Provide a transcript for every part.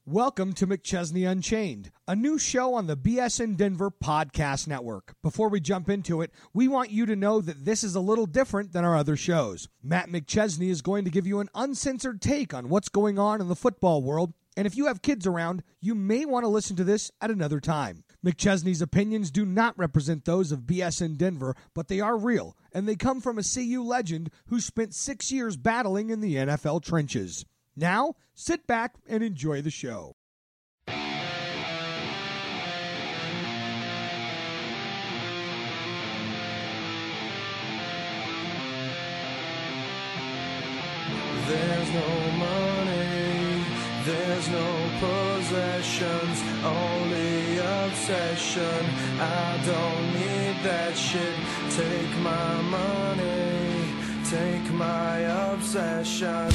Welcome to McChesney Unchained, a new show on the BSN Denver Podcast Network. Before we jump into it, we want you to know that this is a little different than our other shows. Matt McChesney is going to give you an uncensored take on what's going on in the football world, and if you have kids around, you may want to listen to this at another time. McChesney's opinions do not represent those of BSN Denver, but they are real, and they come from a CU legend who spent 6 years battling in the NFL trenches. Now, sit back and enjoy the show. There's no money, there's no possessions, only obsession. I don't need that shit. Take my money, take my obsession.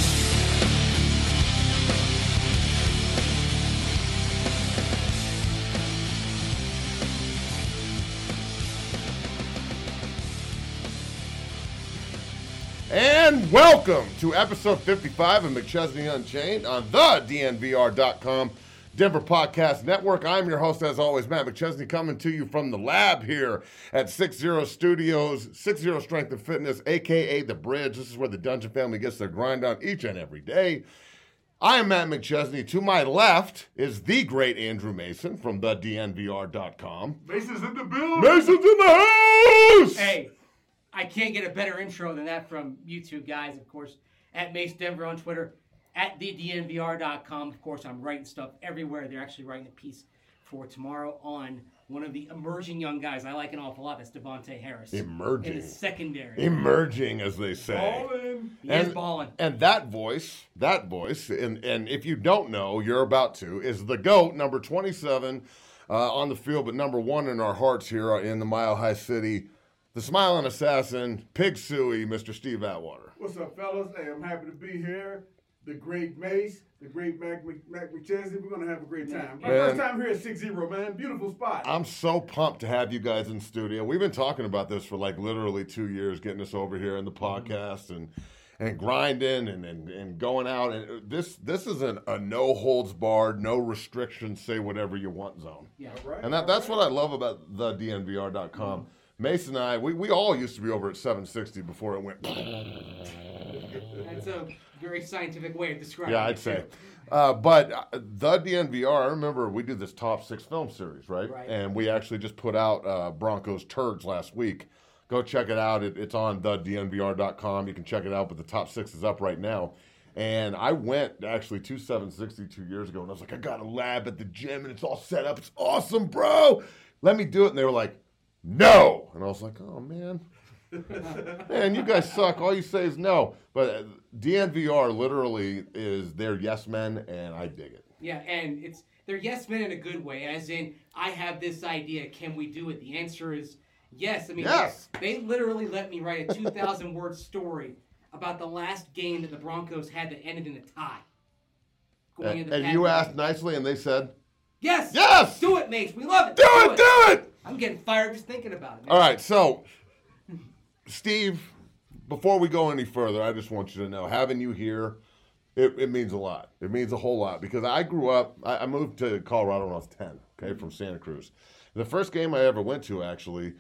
And welcome to episode 55 of McChesney Unchained on the DNVR.com Denver Podcast Network. I'm your host, as always, Matt McChesney, coming to you from the lab here at 60 Studios, 60 Strength and Fitness, a.k.a. The Bridge. This is where the Dungeon family gets their grind on each and every day. I am Matt McChesney. To my left is the great Andrew Mason from the DNVR.com. Mason's in the building. Mason's in the house! Hey, I can't get a better intro than that from you two guys, of course, at Mace Denver on Twitter, at thednvr.com. Of course, I'm writing stuff everywhere. They're actually writing a piece for tomorrow on one of the emerging young guys I like an awful lot. That's Devontae Harris. Emerging. In the secondary. Emerging, as they say. Ballin'. He is balling. And that voice, and if you don't know, you're about to, is the GOAT, number 27 on the field, but number 1 in our hearts here in the Mile High City. The smiling assassin, Pig Suey, Mr. Steve Atwater. What's up, fellas? Hey, I'm happy to be here. The great Mace, the great Mac McChesney. We're going to have a great time. My first time here at 60, man. Beautiful spot. I'm so pumped to have you guys in studio. We've been talking about this for like literally 2 years, getting us over here in the podcast and grinding and going out. And this isn't a no holds barred, no restrictions, say whatever you want zone. Yeah. Right, And that's what I love about the DNVR.com. Mason and I, we all used to be over at 760 before it went. That's a very scientific way of describing Yeah, it. I'd say. But the DNVR, I remember we did this top 6 film series, right? Right. And we actually just put out Broncos Turds last week. Go check it out. It's on thednvr.com. You can check it out, but the top 6 is up right now. And I went actually to 760 2 years ago, and I was like, I got a lab at the gym, and it's all set up. It's awesome, bro. Let me do it. And they were like, no. And I was like, oh, man. Man, you guys suck. All you say is no. But DNVR literally is their yes men, and I dig it. Yeah, and they're yes men in a good way, as in, I have this idea, can we do it? The answer is yes. I mean, Yes. They literally let me write a 2,000-word story about the last game that the Broncos had that ended in a tie. And you asked nicely, and they said, yes! Yes! Do it, Mace. We love it. do it! I'm getting fired just thinking about it, man. All right, so, Steve, before we go any further, I just want you to know, having you here, it means a lot. It means a whole lot, because I grew up, I moved to Colorado when I was 10, okay, from Santa Cruz. The first game I ever went to, actually,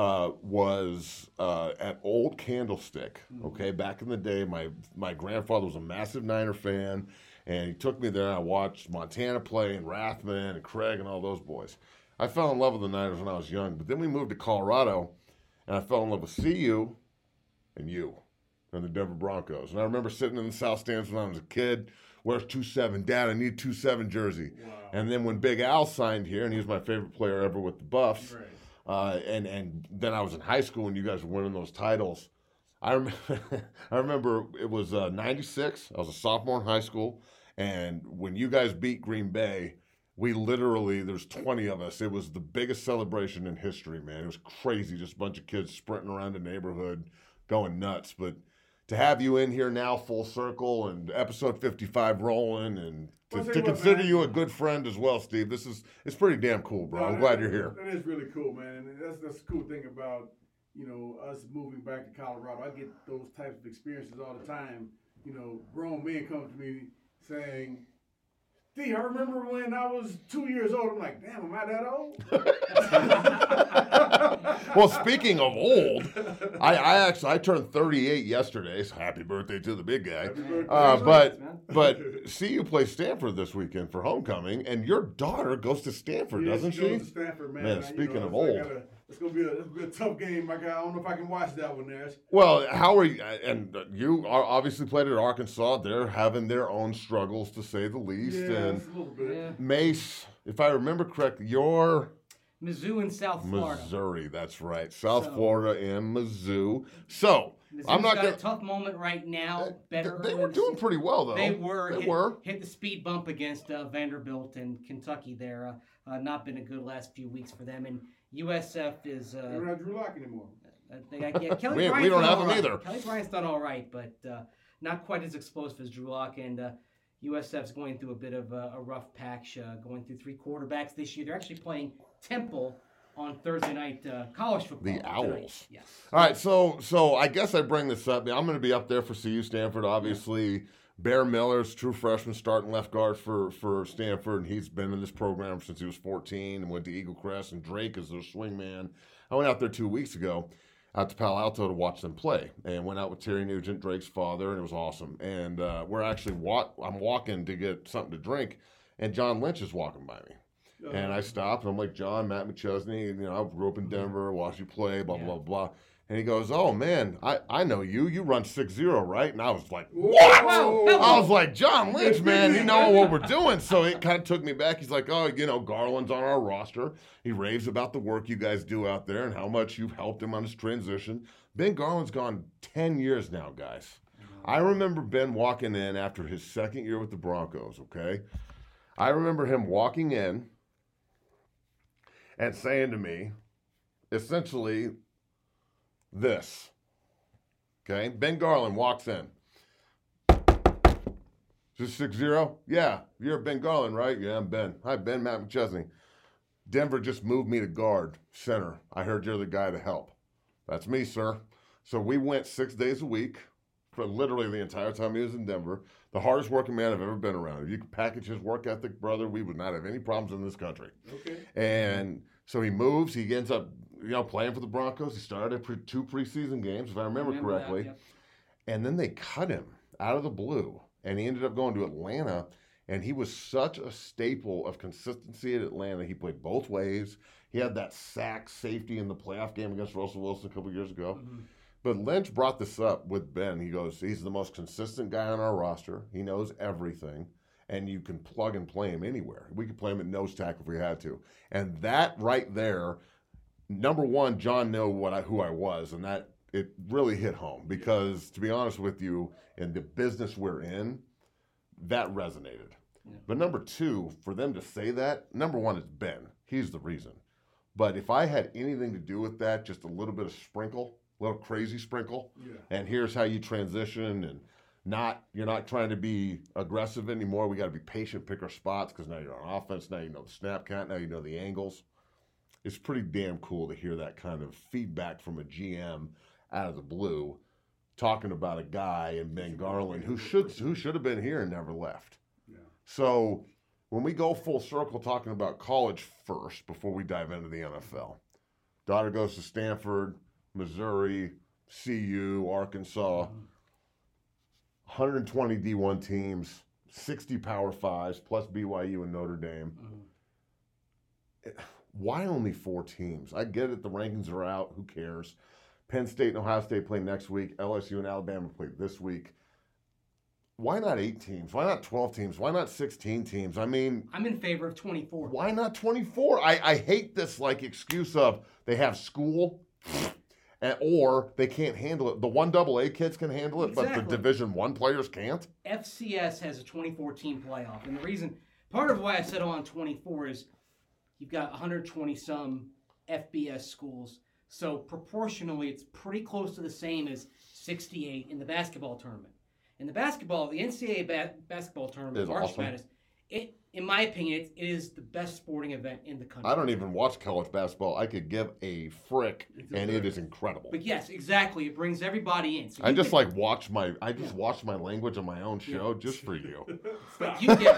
was at Old Candlestick, okay? Back in the day, my grandfather was a massive Niner fan, and he took me there, and I watched Montana play, and Rathman, and Craig, and all those boys. I fell in love with the Niners when I was young, but then we moved to Colorado, and I fell in love with CU and you and the Denver Broncos. And I remember sitting in the South Stands when I was a kid. Where's 2-7? Dad, I need 2-7 jersey. Wow. And then when Big Al signed here, and he was my favorite player ever with the Buffs, right. And then I was in high school when you guys were winning those titles. I remember it was 96. I was a sophomore in high school, and when you guys beat Green Bay, we literally, there's 20 of us. It was the biggest celebration in history, man. It was crazy, just a bunch of kids sprinting around the neighborhood, going nuts. But to have you in here now, full circle, and episode 55 rolling, and to consider you a good friend as well, Steve, it's pretty damn cool, bro. I'm glad you're here. That is really cool, man. And that's the cool thing about, us moving back to Colorado. I get those types of experiences all the time. Grown men come to me saying, D, I remember when I was 2 years old. I'm like, damn, am I that old? Well, speaking of old, I turned 38 yesterday. So happy birthday to the big guy. But CU plays Stanford this weekend for homecoming, and your daughter goes to Stanford, doesn't she? Goes to Stanford, man. Man, speaking of old. It's gonna be a tough game, my guy. I don't know if I can watch that one, Nash. Well, how are you? And you are obviously played at Arkansas. They're having their own struggles, to say the least. Yeah, and a little bit. Yeah. Mace, if I remember correctly, you're Mizzou in South Florida. Missouri. That's right, South Florida and Mizzou. So Mizzou's I'm not got going a tough moment right now. Better. They were doing pretty well though. They were. Hit Hit the speed bump against Vanderbilt and Kentucky there. Not been a good last few weeks for them. And USF is. They don't have Drew Lock anymore. They got, Kelly we don't have him either. Kelly Bryant's done all right, but not quite as exposed as Drew Lock. And USF's going through a bit of a rough patch, going through 3 quarterbacks this year. They're actually playing Temple on Thursday night college football. The Owls. Yes. All right, so I guess I bring this up. I'm going to be up there for CU Stanford, obviously. Yeah. Bear Miller's true freshman starting left guard for Stanford, and he's been in this program since he was 14 and went to Eagle Crest, and Drake is their swing man. I went out there 2 weeks ago out to Palo Alto to watch them play, and went out with Terry Nugent, Drake's father, and it was awesome. And we're actually I'm walking to get something to drink, and John Lynch is walking by me. And I stopped, and I'm like, John, Matt McChesney, I grew up in Denver, watched you play, blah, blah, blah. And he goes, oh, man, I know you. You run 6-0, right? And I was like, what? Whoa. I was like, John Lynch, man, you know what we're doing. So it kind of took me back. He's like, oh, Garland's on our roster. He raves about the work you guys do out there and how much you've helped him on his transition. Ben Garland's gone 10 years now, guys. I remember Ben walking in after his second year with the Broncos, okay? I remember him walking in and saying to me, essentially, this. Okay? Ben Garland walks in. Is this 6-0? Yeah. You're Ben Garland, right? Yeah, I'm Ben. Hi, Ben. Matt McChesney. Denver just moved me to guard, center. I heard you're the guy to help. That's me, sir. So we went 6 days a week for literally the entire time he was in Denver. The hardest working man I've ever been around. If you could package his work ethic, brother, we would not have any problems in this country. Okay. And so he moves. He ends up, playing for the Broncos. He started 2 preseason games, if I remember correctly. That, yep. And then they cut him out of the blue, and he ended up going to Atlanta. And he was such a staple of consistency at Atlanta. He played both ways. He had that sack safety in the playoff game against Russell Wilson a couple years ago. Mm-hmm. But Lynch brought this up with Ben. He goes, he's the most consistent guy on our roster. He knows everything. And you can plug and play him anywhere. We could play him at nose tackle if we had to. And that right there, number one, John knew who I was, and that it really hit home. Because to be honest with you, in the business we're in, that resonated. Yeah. But number two, for them to say that, number one is Ben. He's the reason. But if I had anything to do with that, just a little bit of sprinkle, a little crazy sprinkle, and here's how you transition, and you're not trying to be aggressive anymore. We got to be patient, pick our spots, because now you're on offense. Now you know the snap count. Now you know the angles. It's pretty damn cool to hear that kind of feedback from a GM out of the blue, talking about a guy in Ben Garland who should have been here and never left. Yeah. So when we go full circle talking about college first before we dive into the NFL, daughter goes to Stanford, Missouri, CU, Arkansas, 120 D1 teams, 60 Power Fives, plus BYU and Notre Dame. Why only 4 teams? I get it, the rankings are out, who cares? Penn State and Ohio State play next week. LSU and Alabama play this week. Why not 8 teams? Why not 12 teams? Why not 16 teams? I mean, I'm in favor of 24. Why not 24? I hate this excuse of they have school or they can't handle it. The 1AA kids can handle it, exactly. But the Division I players can't. FCS has a 24-team playoff, and the reason, part of why I settle on 24 is you've got 120-some FBS schools. So proportionally, it's pretty close to the same as 68 in the basketball tournament. In the NCAA basketball tournament, March Madness, in my opinion, it is the best sporting event in the country. I don't even watch college basketball. I could give a frick, and it is incredible. But yes, exactly. It brings everybody in. So I just watch my language on my own show just for you. But you get.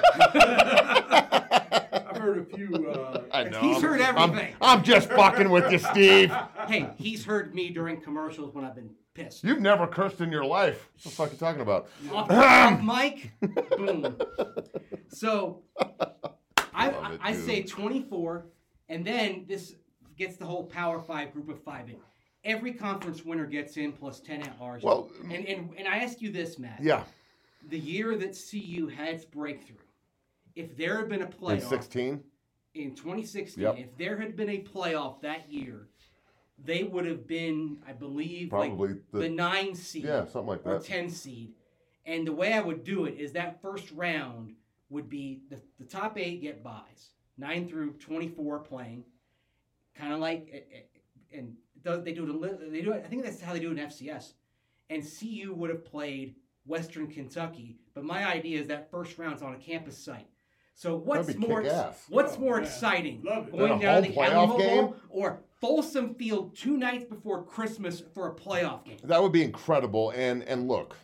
I've heard a few. I know. He's heard everything. I'm just fucking with you, Steve. Hey, he's heard me during commercials when I've been pissed. You've never cursed in your life. What the fuck are you talking about? Off mic, boom. So, I say 24, and then this gets the whole Power 5 group of 5 in. Every conference winner gets in plus 10 at large. Well, and I ask you this, Matt. Yeah. The year that CU had its breakthrough, if there had been a playoff In 2016, Yep. if there had been a playoff that year, they would have been, I believe, Probably the 9 seed. Yeah, something like or that. 10 seed. And the way I would do it is that first round would be the top 8 get buys, 9 through 24 playing, kind of like, and they do it. I think that's how they do it in FCS. And CU would have played Western Kentucky, but my idea is that first round's on a campus site. So what's That'd be more kick-ass. exciting? Love it. Going Then a down home the playoff Alamo game? Bowl or Folsom Field 2 nights before Christmas for a playoff game? That would be incredible. And look.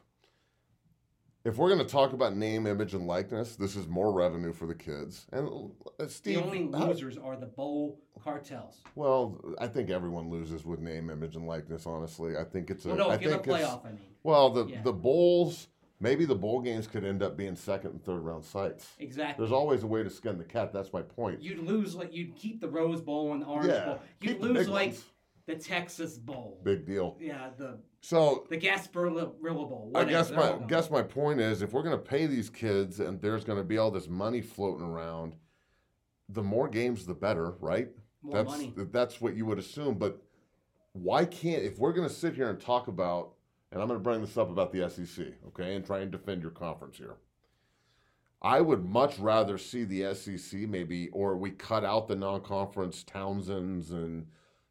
If we're going to talk about name, image, and likeness, this is more revenue for the kids. And Steve, The only losers are the bowl cartels. Well, I think everyone loses with name, image, and likeness. Honestly, I think it's a. Well, no, I if you have a think it's- playoff, I mean. Well, Yeah. the bowls, maybe the bowl games could end up being second and third round sites. Exactly. There's always a way to skin the cat. That's my point. You'd lose, you'd keep the Rose Bowl and the Orange Yeah, Bowl. keep You'd the lose, big ones. the Texas Bowl. Big deal. Yeah, the So Gasparilla Bowl. I Whatever. guess my point is, if we're going to pay these kids and there's going to be all this money floating around, the more games, the better, right? More money. That's what you would assume. But why can't, if we're going to sit here and talk about, and I'm going to bring this up about the SEC, okay, and try and defend your conference here. I would much rather see the SEC maybe, or we cut out the non-conference Townsends and,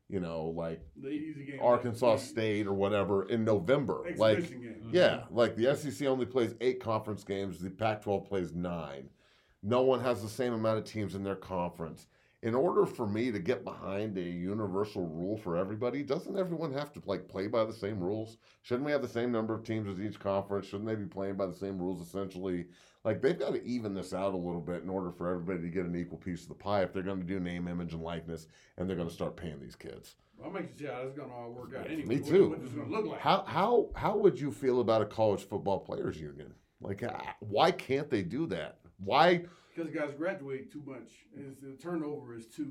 The easy game. Arkansas State or whatever in November. Exhibition game. Yeah, like the SEC only plays 8 conference games. The Pac-12 plays 9. No one has the same amount of teams in their conference. In order for me to get behind a universal rule for everybody, doesn't everyone have to play by the same rules? Shouldn't we have the same number of teams as each conference? Shouldn't they be playing by the same rules essentially? They've got to even this out a little bit in order for everybody to get an equal piece of the pie if they're going to do name, image, and likeness, and they're going to start paying these kids. I'll make you see how this is going to all work out anyway. Me too. What it's going to look like. How would you feel about a college football players union? Why can't they do that? Why? Because guys graduate too much. The turnover is too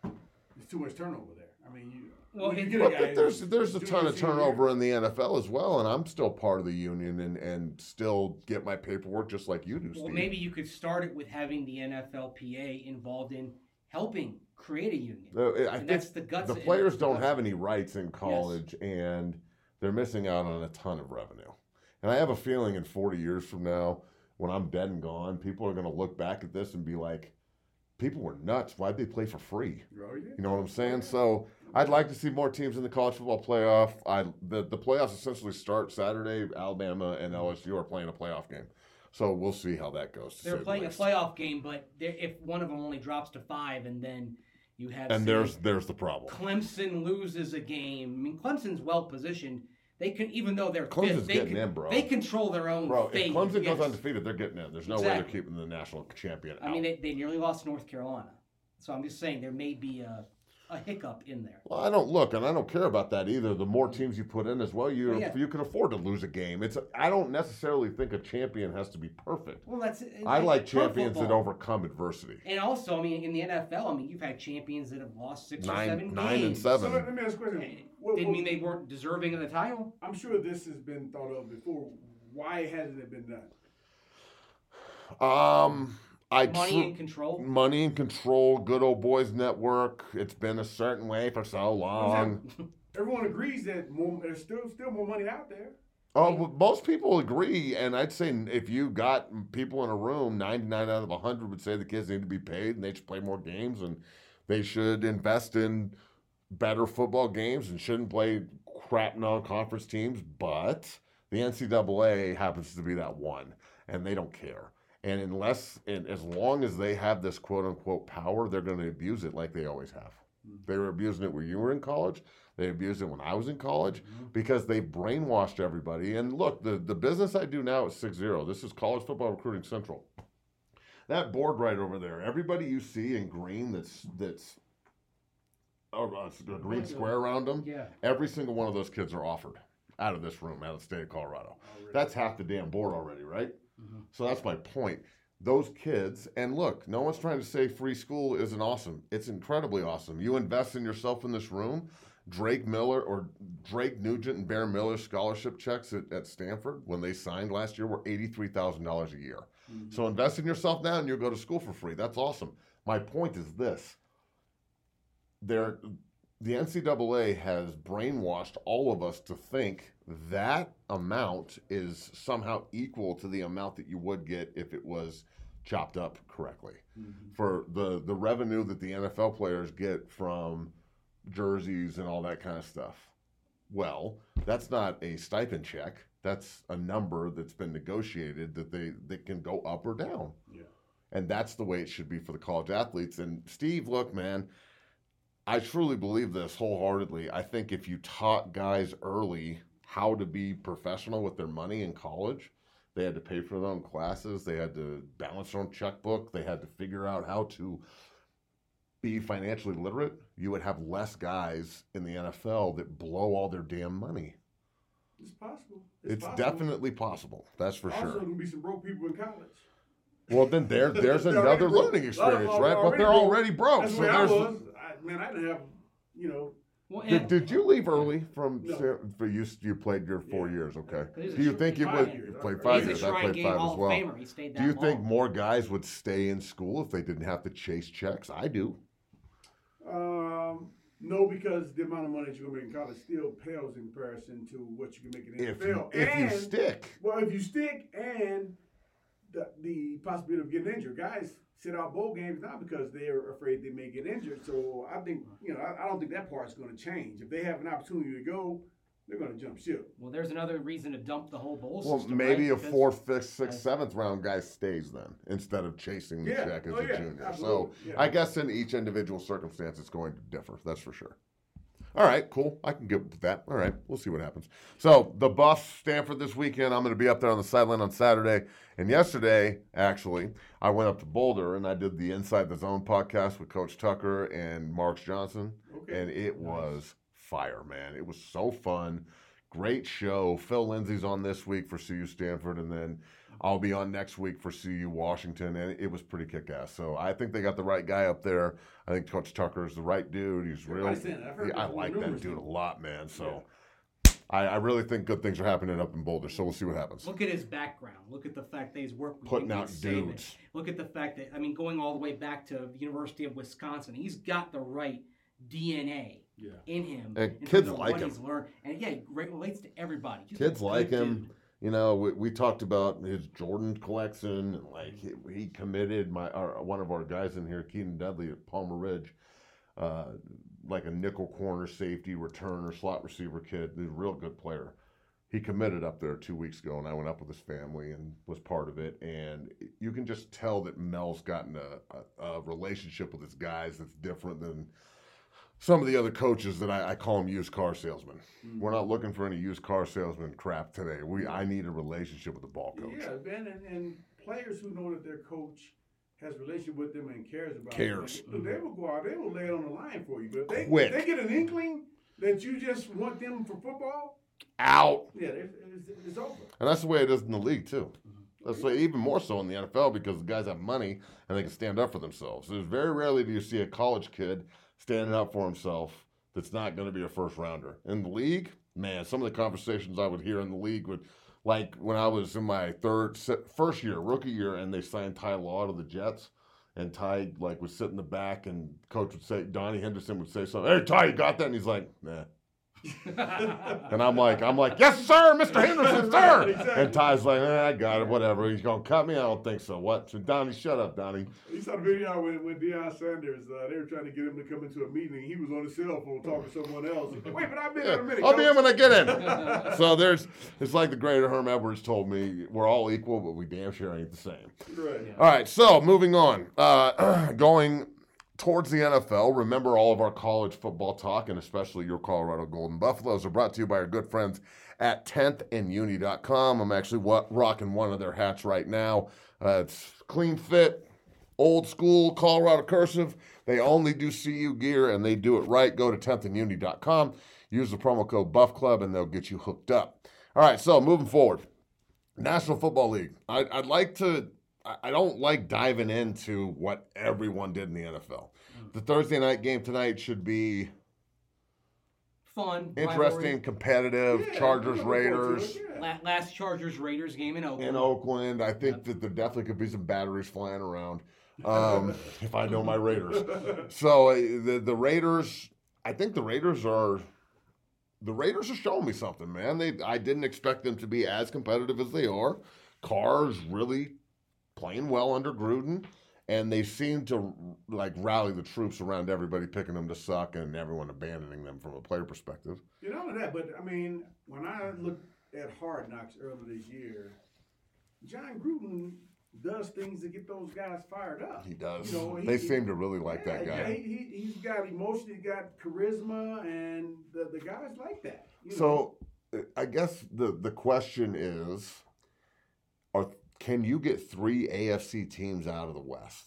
much turnover there. I mean, there's a ton of turnover in the NFL as well, and I'm still part of the union and still get my paperwork just like you do, Steve. Well, maybe you could start it with having the NFLPA involved in helping create a union. I think that's the guts. The players don't have any rights in college, and they're missing out on a ton of revenue. And I have a feeling in 40 years from now, when I'm dead and gone, people are going to look back at this and be like, people were nuts. Why'd they play for free? Oh, yeah. You know what I'm saying? So I'd like to see more teams in the college football playoff. The playoffs essentially start Saturday. Alabama and LSU are playing a playoff game. So we'll see how that goes. They're playing a playoff game, but if one of them only drops to 5 and then you have... And there's the problem. Clemson loses a game. I mean, Clemson's well-positioned. They can, even though they're Clemson's fifth, getting in, bro. They control their own fate. If Clemson goes undefeated, they're getting in. There's no way they're Exactly. keeping the national champion out. I mean, they nearly lost North Carolina. So I'm just saying there may be a hiccup in there. Well, I don't care about that either. The more teams you put in as well, you can afford to lose a game. I don't necessarily think a champion has to be perfect. Well, I like pro champions that football. overcome adversity. And also, I mean, in the NFL, I mean, you've had champions that have lost 6 or 7 games. 9 and So 7. let me ask a question. Didn't mean they weren't deserving of the title. I'm sure this has been thought of before. Why hasn't it been done? Money and control. Money and control. Good old boys network. It's been a certain way for so long. Everyone agrees that there's still more money out there. Oh, well, most people agree, and I'd say if you got people in a room, 99 out of 100 would say the kids need to be paid and they should play more games and they should invest in better football games and shouldn't play crap non-conference teams. But the NCAA happens to be that one, and they don't care. And as long as they have this quote unquote power, they're going to abuse it like they always have. They were abusing it when you were in college. They abused it when I was in college because they brainwashed everybody. And look, the business I do now is 6-0. This is College Football Recruiting Central. That board right over there, everybody you see in green that's a green square around them, every single one of those kids are offered out of this room, out of the state of Colorado. That's half the damn board already, right? So that's my point. Those kids, and look, no one's trying to say free school isn't awesome. It's incredibly awesome. You invest in yourself in this room. Drake Nugent and Bear Miller scholarship checks at Stanford when they signed last year were $83,000 a year. So invest in yourself now and you'll go to school for free. That's awesome. My point is this. The NCAA has brainwashed all of us to think that amount is somehow equal to the amount that you would get if it was chopped up correctly. For the revenue that the NFL players get from jerseys and all that kind of stuff. Well, that's not a stipend check. That's a number that's been negotiated that they can go up or down. Yeah. And that's the way it should be for the college athletes. And Steve, look, man, I truly believe this wholeheartedly. I think if you taught guys early how to be professional with their money in college, they had to pay for their own classes. They had to balance their own checkbook. They had to figure out how to be financially literate. You would have less guys in the NFL that blow all their damn money. It's possible. It's definitely possible. That's for sure. Also, going to be some broke people in college. Well, then there's another learning experience, right? But they're already broke. That's so where I there's. was. I didn't have, Well, Did you leave early from? No. For you played your 4 years, okay? He's Do you think you would? 5 years. You played He's 5 He's a years. I Shrine played Game 5 Hall as of well. Famer. He stayed that Do you long. think more guys would stay in school if they didn't have to chase checks? I do. No, because the amount of money that you're going to make in college still pales in comparison to what you can make in the NFL. If you stick. Well, if you stick and the possibility of getting injured. Guys sit out bowl games now because they're afraid they may get injured. So I think, I don't think that part's going to change. If they have an opportunity to go, they're going to jump ship. Well, there's another reason to dump the whole bowl Well, system. maybe right? a 4th, 5th, 6th, 7th round guy stays then instead of chasing the check as a junior. Absolutely. So Yeah. I guess in each individual circumstance, it's going to differ. That's for sure. All right, cool. I can get with that. All right, we'll see what happens. So the Buffs, Stanford this weekend. I'm going to be up there on the sideline on Saturday. And yesterday, actually, I went up to Boulder and I did the Inside the Zone podcast with Coach Tucker and Marks Johnson. Okay. And it was fire, man. It was so fun. Great show. Phil Lindsay's on this week for CU Stanford, and then I'll be on next week for CU Washington, and it was pretty kick-ass. So I think they got the right guy up there. I think Coach Tucker is the right dude. He's real. I like that dude a lot, man. So I really think good things are happening up in Boulder. So we'll see what happens. Look at his background. Look at the fact that he's worked with Putting Nick out Saban. dudes. Look at the fact that, going all the way back to the University of Wisconsin, he's got the right DNA in him. And in kids terms of like what him. He's learned. And he relates to everybody. He's Kids a like good him. dude. We talked about his Jordan collection. Like he committed one of our guys in here, Keaton Dudley at Palmer Ridge, like a nickel corner safety returner, slot receiver kid. He's a real good player. He committed up there 2 weeks ago, and I went up with his family and was part of it. And you can just tell that Mel's gotten a relationship with his guys that's different than some of the other coaches that I call them used car salesmen. Mm-hmm. We're not looking for any used car salesman crap today. I need a relationship with the ball coach. Yeah, Ben, and players who know that their coach has a relationship with them and cares about them. They will go out, they will lay it on the line for you. But if they get an inkling that you just want them for football, out. Yeah, it's over. And that's the way it is in the league, too. That's the way, even more so in the NFL because the guys have money and they can stand up for themselves. There's very rarely do you see a college kid standing up for himself that's not going to be a first rounder. In the league, man, some of the conversations I would hear in the league would, like when I was in my first year, rookie year, and they signed Ty Law to the Jets, and Ty would sit in the back, and coach would say, Donnie Henderson would say something, hey, Ty, you got that? And he's like, nah. And I'm like, yes, sir, Mr. Henderson, sir. Exactly. And Ty's like, I got it, whatever. He's going to cut me? I don't think so. What? So, Donnie, shut up, Donnie. You saw the video with Deion Sanders. They were trying to get him to come into a meeting. He was on his cell phone talking to someone else. Wait, but I'll be there in a minute. I'll be in when I get in. So it's like the great Herm Edwards told me, we're all equal, but we damn sure ain't the same. Right. Yeah. All right, so moving on. Going towards the NFL, remember all of our college football talk, and especially your Colorado Golden Buffaloes, are brought to you by our good friends at 10thanduni.com. I'm actually rocking one of their hats right now. It's clean fit, old school Colorado cursive. They only do CU gear, and they do it right. Go to 10thanduni.com. Use the promo code BuffClub, and they'll get you hooked up. All right, so moving forward. National Football League. I don't like diving into what everyone did in the NFL. The Thursday night game tonight should be Fun. interesting, rivalry. competitive. Yeah, Chargers, I'm looking forward to Raiders. it, yeah. Last Chargers-Raiders game in Oakland. In Oakland, I think that there definitely could be some batteries flying around if I know my Raiders. So the Raiders, I think the Raiders are showing me something, man. I didn't expect them to be as competitive as they are. Carr's really playing well under Gruden, and they seem to like rally the troops around everybody picking them to suck and everyone abandoning them from a player perspective. You know that, but I mean, when I looked at Hard Knocks earlier this year, John Gruden does things to get those guys fired up. He does. You know, They seem to really like that Yeah, guy. he's got emotion, he's got charisma, and the guys like that. You know? So I guess the question is, can you get 3 AFC teams out of the West?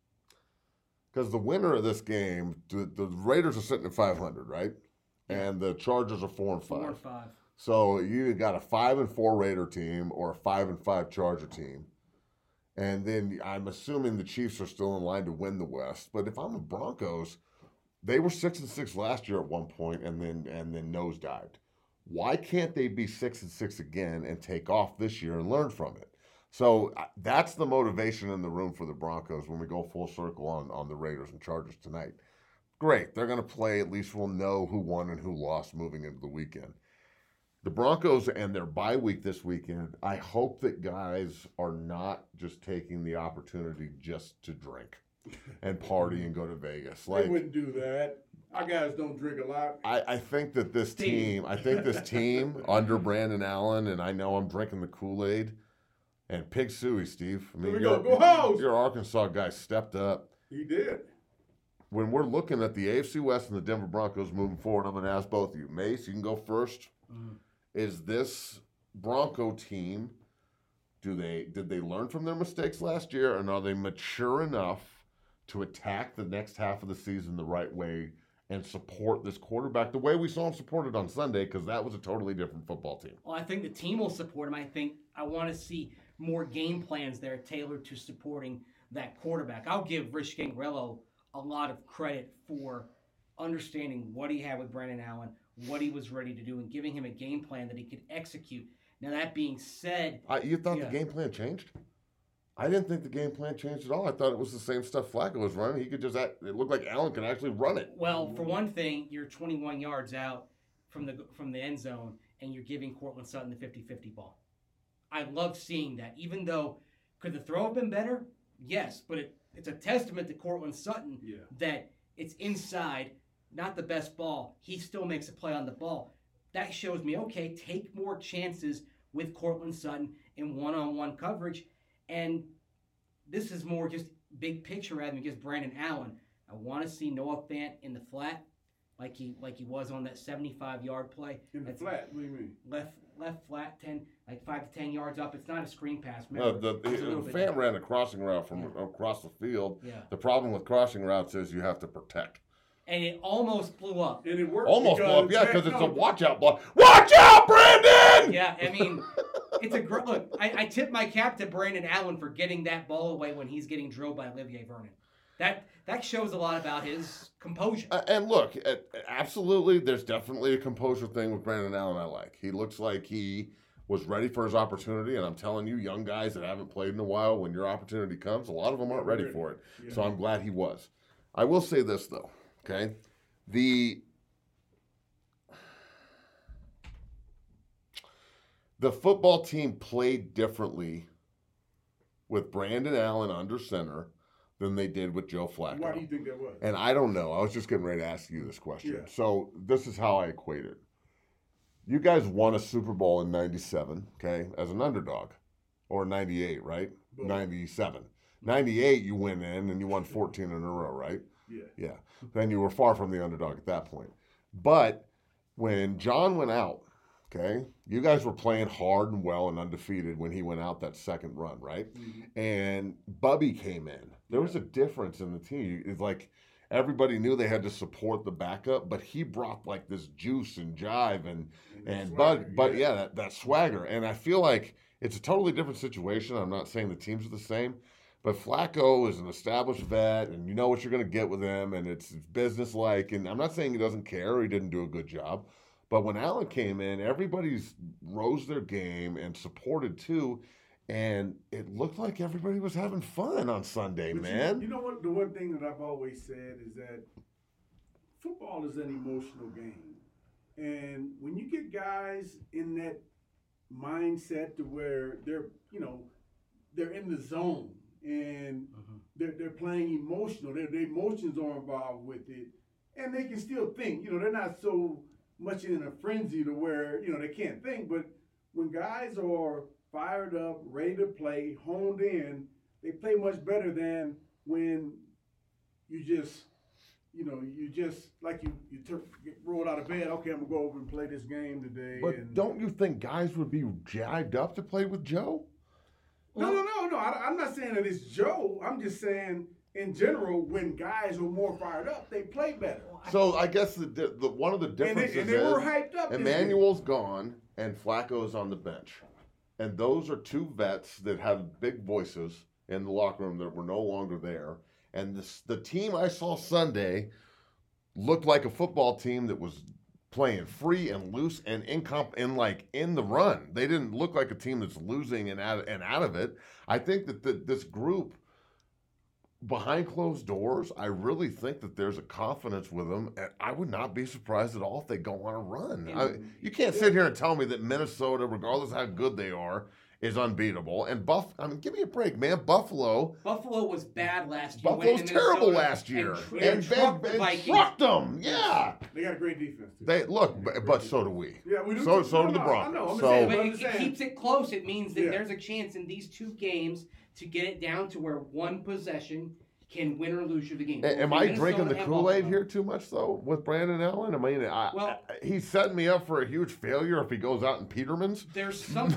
Because the winner of this game, the Raiders are sitting at 500, right? And the Chargers are 4-5. 4-5. So you got a 5-4 Raider team or a 5-5 Charger team. And then I'm assuming the Chiefs are still in line to win the West. But if I'm the Broncos, they were 6-6 last year at one point and then nosedived. Why can't they be 6-6 again and take off this year and learn from it? So that's the motivation in the room for the Broncos when we go full circle on the Raiders and Chargers tonight. Great. They're going to play. At least we'll know who won and who lost moving into the weekend. The Broncos and their bye week this weekend, I hope that guys are not just taking the opportunity just to drink and party and go to Vegas. they wouldn't do that. Our guys don't drink a lot. I think that this team under Brandon Allen, and I know I'm drinking the Kool-Aid, and Pig Suey, Steve. I mean, Here we go. Go Hogs! your Arkansas guy stepped up. He did. When we're looking at the AFC West and the Denver Broncos moving forward, I'm going to ask both of you. Mace, you can go first. Is this Bronco team, did they learn from their mistakes last year, and are they mature enough to attack the next half of the season the right way and support this quarterback the way we saw him supported on Sunday, because that was a totally different football team? Well, I think the team will support him. I want to see more game plans there tailored to supporting that quarterback. I'll give Rich Gangrello a lot of credit for understanding what he had with Brandon Allen, what he was ready to do, and giving him a game plan that he could execute. Now, that being said... You thought the game plan changed? I didn't think the game plan changed at all. I thought it was the same stuff Flacco was running. He could just it looked like Allen could actually run it. Well, for one thing, you're 21 yards out from the end zone, and you're giving Cortland Sutton the 50-50 ball. I love seeing that. Even though, could the throw have been better? Yes, but it's a testament to Cortland Sutton that it's inside, not the best ball. He still makes a play on the ball. That shows me, okay, take more chances with Cortland Sutton in one-on-one coverage. And this is more just big picture rather than just Brandon Allen. I want to see Noah Fant in the flat like he was on that 75-yard play. In the flat? What do you mean? Left flat, 5 to 10 yards up. It's not a screen pass. Fant ran a crossing route from across the field. Yeah. The problem with crossing routes is you have to protect. And it almost blew up. And it worked. Almost blew up, because it's a watch-out block. Watch out, Brandon! Yeah, I mean, it's a great look. I tip my cap to Brandon Allen for getting that ball away when he's getting drilled by Olivier Vernon. That shows a lot about his composure. And look, absolutely, there's definitely a composure thing with Brandon Allen I like. He looks like he was ready for his opportunity, and I'm telling you, young guys that haven't played in a while, when your opportunity comes, a lot of them aren't ready for it. Yeah. So I'm glad he was. I will say this, though, okay? the football team played differently with Brandon Allen under center than they did with Joe Flacco. Why do you think that was? And I don't know. I was just getting ready to ask you this question. Yeah. So this is how I equate it. You guys won a Super Bowl in 97, okay, as an underdog. Or 98, right? Both. 97. 98, you went in and you won 14 in a row, right? Yeah. Yeah. Then you were far from the underdog at that point. But when John went out, okay, you guys were playing hard and well and undefeated when he went out that second run, right? Mm-hmm. And Bubby came in. There was a difference in the team. It's like everybody knew they had to support the backup, but he brought like this juice and jive and swagger, but yeah, that swagger. And I feel like it's a totally different situation. I'm not saying the teams are the same, but Flacco is an established vet, and you know what you're going to get with him, and it's business-like. And I'm not saying he doesn't care or he didn't do a good job, but when Allen came in, everybody's rose their game and supported too, and it looked like everybody was having fun on Sunday, But man. You know what? The one thing that I've always said is that football is an emotional game. And when you get guys in that mindset to where they're in the zone and they're playing emotional, their emotions are involved with it, and they can still think. They're not so much in a frenzy to where they can't think. But when guys are fired up, ready to play, honed in, they play much better than when you just get rolled out of bed. Okay, I'm gonna go over and play this game today. But don't you think guys would be jacked up to play with Joe? No. I'm not saying that it's Joe. I'm just saying in general, when guys are more fired up, they play better. So I guess the one of the differences and they were hyped up. Emmanuel's gone and Flacco's on the bench. And those are two vets that have big voices in the locker room that were no longer there. And the team I saw Sunday looked like a football team that was playing free and loose and in the run. They didn't look like a team that's losing and out of it. I think that this group, behind closed doors, I really think that there's a confidence with them, and I would not be surprised at all if they go on a run. You can't sit here and tell me that Minnesota, regardless of how good they are, is unbeatable. And give me a break, man. Buffalo was bad last year. Buffalo's terrible last year. And trucked them. Yeah. They got a great defense, too. But so do we. Yeah, we do. So too. do the Broncos. I know. But it keeps it close. It means that there's a chance in these two games to get it down to where one possession can win or lose you the game. Am I drinking the Kool-Aid here too much, though, with Brandon Allen? I mean, he's setting me up for a huge failure if he goes out in Peterman's. There's some...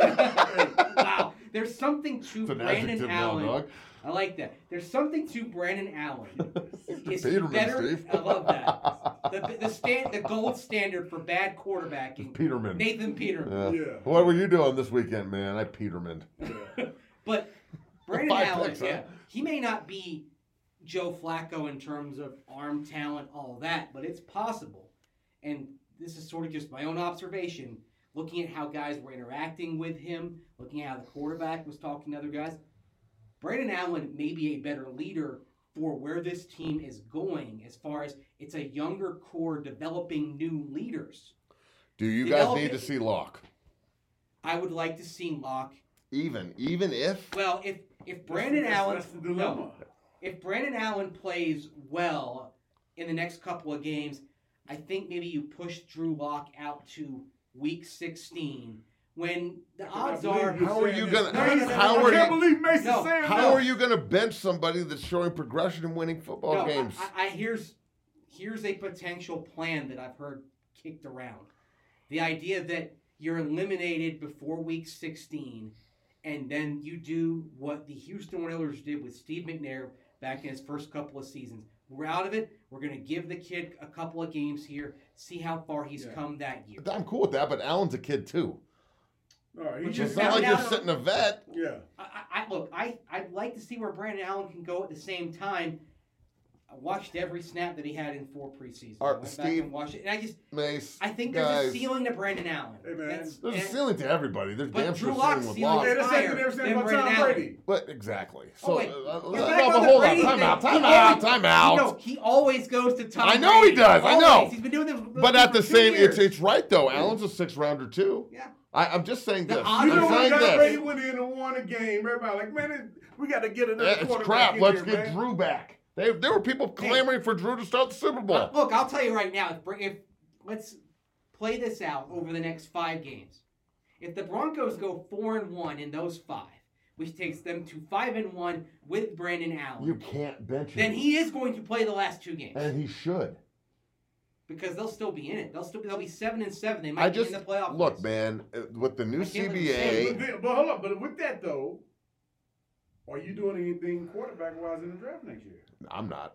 Wow. There's something to Brandon Allen. I like that. There's something to Brandon Allen. It's Peterman, better. Steve. I love that. The gold standard for bad quarterbacking. Peterman. Nathan Peterman. Yeah. What were you doing this weekend, man? I Peterman. But Brandon Allen, picks, huh? he may not be Joe Flacco in terms of arm talent, all that, but it's possible. And this is sort of just my own observation, looking at how guys were interacting with him, looking at how the quarterback was talking to other guys. Brandon Allen may be a better leader for where this team is going as far as it's a younger core developing new leaders. Do you guys need to see Locke? I would like to see Locke. Even if? Well, if Brandon Allen... That's the dilemma. No, if Brandon Allen plays well in the next couple of games, I think maybe you push Drew Lock out to week 16 when the odds are... How are you going to... I can't believe Mason's saying that. How are you going to bench somebody that's showing progression in winning football games? Here's a potential plan that I've heard kicked around. The idea that you're eliminated before week 16, and then you do what the Houston Oilers did with Steve McNair back in his first couple of seasons. We're out of it. We're going to give the kid a couple of games here, see how far he's come that year. I'm cool with that, but Allen's a kid too. All right, It's not like you're sitting a vet. Yeah. I'd like to see where Brandon Allen can go at the same time. I watched every snap that he had in 4 preseasons. I went back and watched it, and I think there's a ceiling to Brandon Allen. Hey, man. There's a ceiling to everybody. There's damn sure Drew ceiling Lock's with ceiling Locke. is higher than Brandon Allen. But exactly. Oh, So, wait. hold on. Time out. He always goes to Tom I know Brady. he does. I know. He's been doing this. But at the for 2 same, years. it's right though. Allen's a 6th rounder too. Yeah. I'm just saying this. odds You I'm know when saying Tom Brady this. went in and won a game, everybody like, man, we got to get another It's quarterback crap. in Let's here, get man. Drew back. There were people clamoring for Drew to start the Super Bowl. Look, I'll tell you right now. If let's play this out over the next 5 games. If the Broncos go 4-1 in those 5, which takes them to 5-1 with Brandon Allen, You can't bench him. then he is going to play the last 2 games And he should. because they'll still be in it. They'll be 7-7. They might be in the playoff. Look, race. man, with the new I can't believe CBA, But hold up. But with that, though, are you doing anything quarterback-wise in the draft next year? I'm not.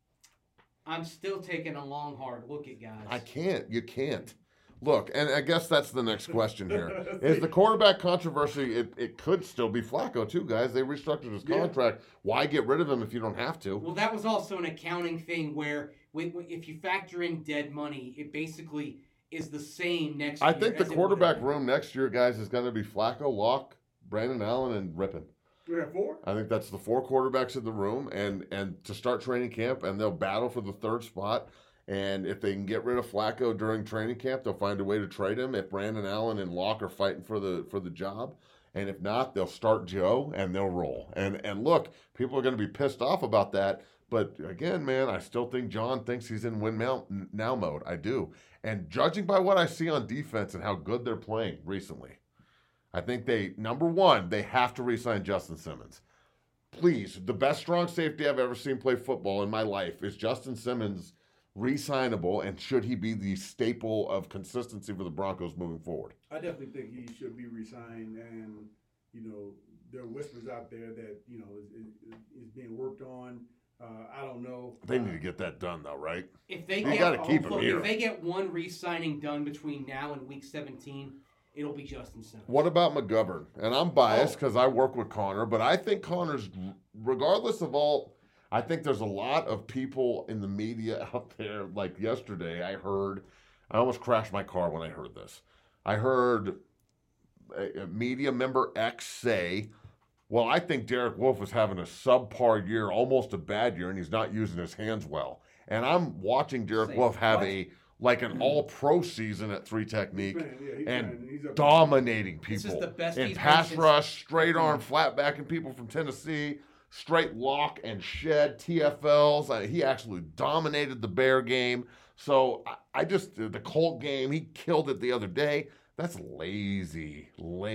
I'm still taking a long, hard look at guys. I can't. You can't. Look, and I guess that's the next question here. Is the quarterback controversy, it could still be Flacco, too, guys. They restructured his contract. Why get rid of him if you don't have to? Well, that was also an accounting thing where if you factor in dead money, it basically is the same next year. I think the as it quarterback would've been. room next year, guys, is going to be Flacco, Locke, Brandon Allen, and Rippon. We have 4? I think that's the 4 quarterbacks in the room, and to start training camp, and they'll battle for the 3rd spot. And if they can get rid of Flacco during training camp, they'll find a way to trade him. If Brandon Allen and Locke are fighting for the job, and if not, they'll start Joe and they'll roll. And look, people are going to be pissed off about that. But again, man, I still think John thinks he's in win now mode. I do. And judging by what I see on defense and how good they're playing recently, I think number one, they have to re-sign Justin Simmons. Please, the best strong safety I've ever seen play football in my life is Justin Simmons, re-signable, and should he be the staple of consistency for the Broncos moving forward? I definitely think he should be re-signed, and there are whispers out there that is being worked on. I don't know. They need to get that done, though, right? If they You gotta keep him here. If they get one re-signing done between now and week 17, it'll be Justin Simmons. What about McGovern? And I'm biased because I work with Connor, but I think Connor's, regardless of all, I think there's a lot of people in the media out there. Like yesterday, I almost crashed my car when I heard this. I heard a media member X say, well, I think Derek Wolfe is having a subpar year, almost a bad year, and he's not using his hands well. And I'm watching Derek Wolfe have an all-pro season at 3 technique and dominating This is people the best in he's pass been rush, straight arm, flat backing people from Tennessee, straight lock and shed TFLs. He actually dominated the Bear game. So the Colt game, he killed it the other day. That's lazy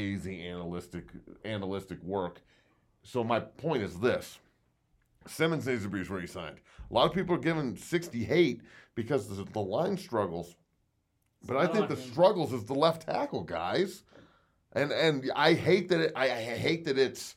analytic work. So my point is this. Simmons needs to be re-signed. A lot of people are giving 60 hate because the line struggles. But I think the struggles is the left tackle, guys. And I hate that I hate that it's